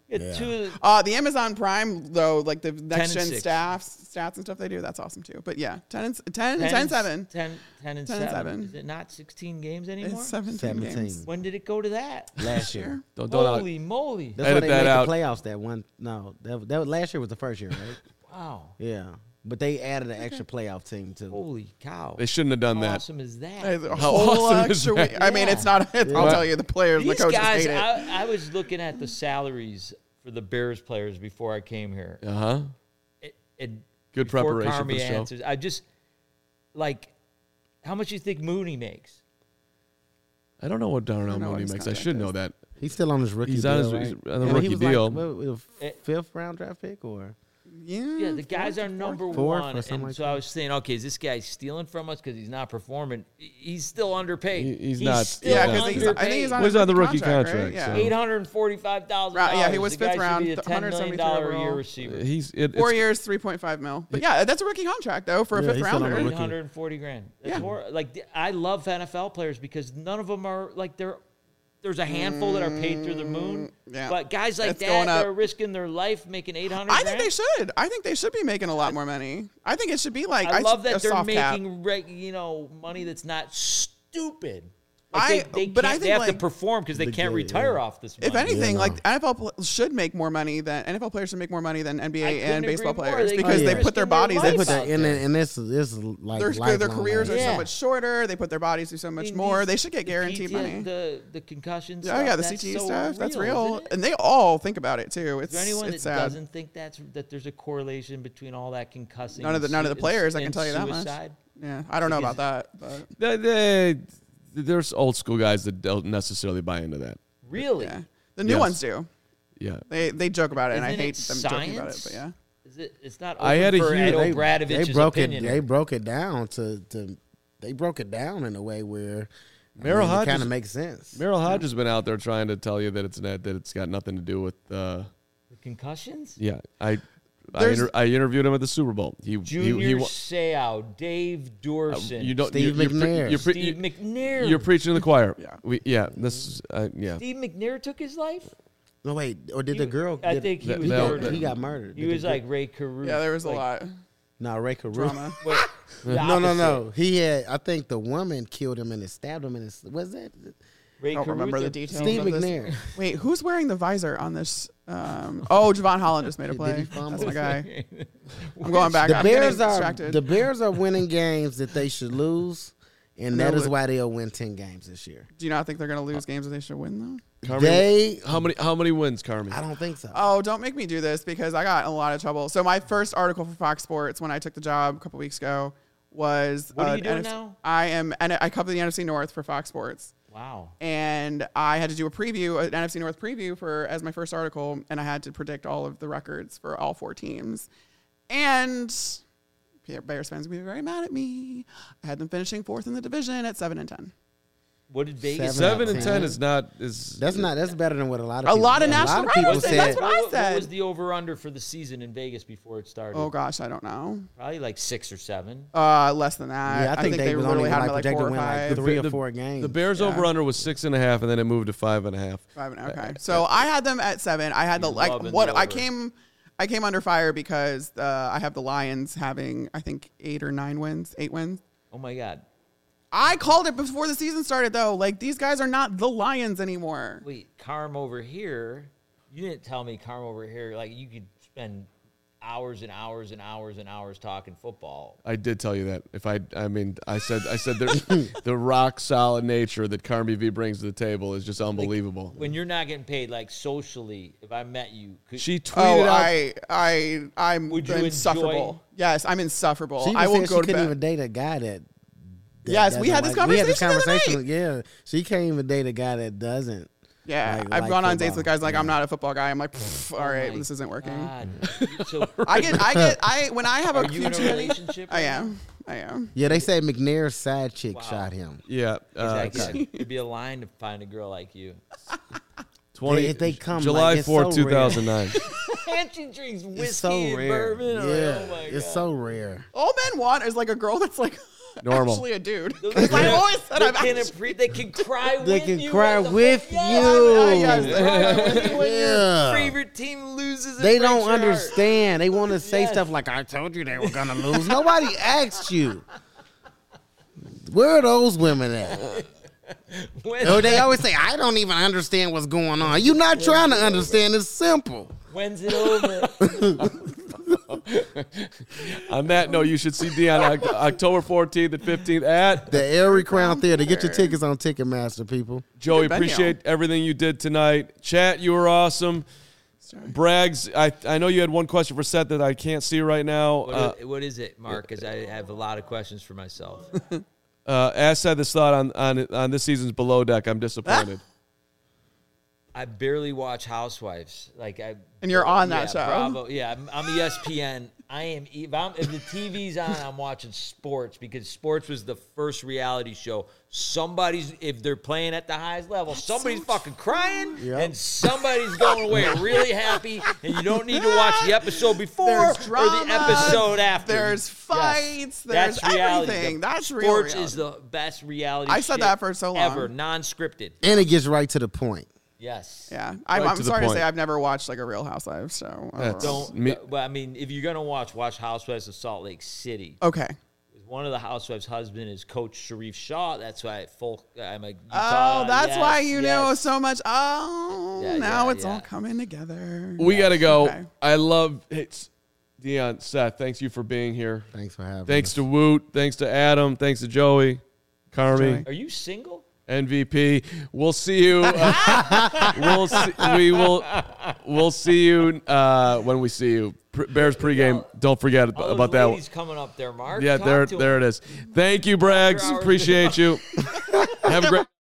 The Amazon Prime, though, like the next gen 6. stats and stuff they do, that's awesome too. But yeah, 10 and 7. 10 and 7. Is it not 16 games anymore? It's 17 17. games. When did it go to that? Last year. Don't Holy moly. That's why Edit they that made out. the playoffs that one. No, that was, last year was the first year, right? Wow. Yeah. But they added an extra playoff team too. Holy cow. They shouldn't have done How that. awesome is that? There's a How whole awesome is extra that? week. I mean, it's not. I'll tell you, the players, the These coaches guys, hate it. I was looking at the salaries for the Bears players before I came here. Uh huh. Good Before preparation for Carmi the show. answers, I just, how much do you think Mooney makes? I don't know what Darnell know what Mooney his makes. I contract should is. know that. He's still on his rookie He's deal, on his- right? he's on the And rookie he was deal. Like, fifth round draft pick or Yeah, the guys are number Fourth one. or something And like so that. I was saying, okay, is this guy stealing from us because he's not performing? He's still underpaid. He's not. Still Yeah, because because I think he's on, Well, he's his on the rookie right? contract, Yeah. so- $845,000. Right, yeah, he was The guy fifth round, should be a $10 million a year overall. receiver. It's 4 years, 3.5 mil. But yeah, that's a rookie contract though for a Yeah, fifth he's still on rounder. the rookie. $840,000. That's Yeah. more I love NFL players because none of them are there's a handful that are paid through the moon. Yeah. But guys like It's going that, up. they're risking their life making $800,000. I think they should. I think they should be making a lot more money. I think it should be like I love a that they're soft cap. making money that's not stupid. But I They think, have to like, perform because they can't yeah. retire off this money. If anything, Yeah, like NFL should make more money than NFL players should make more money than I NBA couldn't and baseball agree more. players They- because Oh, they yeah. put their Risking their bodies. life they They put put that in, and this is like their lifelong, careers are Yeah. so much shorter. They put their bodies through so much more. They should get guaranteed money. The concussions. Oh yeah, the that's CTE so stuff. That's isn't real, it? and they all think about it too. Is there anyone that It's sad. doesn't think that there's a correlation between all that concussing? None of the players. I can tell you that much. suicide? Yeah, I don't know Because- about that, but there's old school guys that don't necessarily buy into that. Really? yeah, the new Yes. ones do. Yeah. They joke about it, and I Isn't hate it them joking about it. science? But yeah, Is it? It's not. I had a open for huge- Ed they Obradovich's broke opinion. it. They broke it down to they broke it down in a way where Merrill it Hodges- kind of makes sense. Merrill Hodge has been out there trying to tell you that it's got nothing to do with. The concussions. Yeah, I There's- interviewed him at the Super Bowl. Junior Seau, Dave Dorson, you don't Steve you're pre- McNair. you're pre- Steve McNair. You're preaching to the choir. Yeah. This is yeah. Steve McNair took his life. No wait, or did the girl? I did- think he that- was that- murdered. he got murdered. He Did was the like Ray Caruso. yeah, there was a like, lot no Ray Caruso. drama. Wait, the No. opposite. He had. I think the woman killed him and stabbed him in his. Was that Ray I don't remember Caruso? the details. Steve of this. McNair? Wait, who's wearing the visor on this Javon Holland just made a play. That's my guy. I'm going back. The Bears are winning games that they should lose, and that is why they'll win 10 games this year. Do you not think they're going to lose games that they should win though? Carmi, how many wins, Carmi? I don't think so. Oh, don't make me do this because I got in a lot of trouble. So my first article for Fox Sports when I took the job a couple weeks ago was what are you doing now? I cover the NFC North for Fox Sports. Wow. And I had to do an NFC North preview as my first article, and I had to predict all of the records for all 4 teams. And Bears fans will be very mad at me. I had them finishing 4th in the division at 7-10. What did Vegas? 7-10 is not. That's better than what a lot of national writers said. That's what I said. What was the over/under for the season in Vegas before it started? Oh gosh, I don't know. Probably like 6 or 7. Less than that. Yeah, I think they literally had like 4 or 5. Like 3 or 4 games. The Bears over/under was 6.5, and then it moved to 5.5. 5.5. Okay, so I had them at 7. I had I came under fire because I have the Lions having I think 8 or 9 wins, 8 wins. Oh my God. I called it before the season started, though. Like, these guys are not the Lions anymore. Wait, Carm over here, you didn't tell me Carm over here, like, you could spend hours and hours and hours and hours talking football. I did tell you that. I said the rock solid nature that Carmi V brings to the table is just unbelievable. Like, when you're not getting paid, like, socially, if I met you, she tweeted out. I'm insufferable. Yes, I'm insufferable. I will go to bed. She couldn't even date a guy that yes, we had this conversation. Yeah, she can't even date a guy that doesn't. Yeah, I've gone on dates with guys like I'm not a football guy. I'm like, all right, this isn't working. So I when I have you in a relationship? I am. Yeah, they say McNair's side chick shot him. Yeah, exactly. It'd be a line to find a girl like you. They come July like, 4th, 2009. And she drinks whiskey and bourbon. Yeah, oh my God. It's so rare. All men want is like a girl that's like normal. Actually a dude. I always said they can cry with you. They can cry with you. Yes, when your favorite team loses. They don't understand. They want to say stuff like, I told you they were going to lose. Nobody asked you. Where are those women at? They always say, I don't even understand what's going on. You're not trying to understand. It's simple. When's it over? On that note, you should see Dion October 14th and 15th at the Airy Crown Theater. Get your tickets on Ticketmaster, people. Joey, appreciate everything you did tonight. Chat, you were awesome. Braggs, I know you had one question for Seth that I can't see right now. What is it, Mark? Because I have a lot of questions for myself. Ask Seth this thought on this season's Below Deck. I'm disappointed. I barely watch Housewives. And you're on that show. Bravo. Yeah, I'm ESPN. If the TV's on, I'm watching sports because sports was the first reality show. If they're playing at the highest level, somebody's fucking crying and somebody's going away really happy, and you don't need to watch the episode before or the episode after. There's fights. Yes. There's everything. That's real sports reality. Is the best reality. I said that for so long. Ever non-scripted, and it gets right to the point. Yes. Yeah. I'm sorry to say I've never watched like a Real Housewives show. But I mean, if you're gonna watch Housewives of Salt Lake City. Okay. One of the housewives' husband is Coach Sharif Shaw. That's why I'm a Utah. Oh, that's why you know so much. Oh, now it's all coming together. We got to go. Okay. I love it. Dion, Seth, thanks you for being here. Thanks for having us. Thanks to Woot. Thanks to Adam. Thanks to Joey. Carmi. Are you single? MVP. We'll see you. We'll see you when we see you. Bears pregame. Don't forget about that. He's coming up there, Mark. Yeah, there it is. Thank you, Braggs. Appreciate you. Have a great.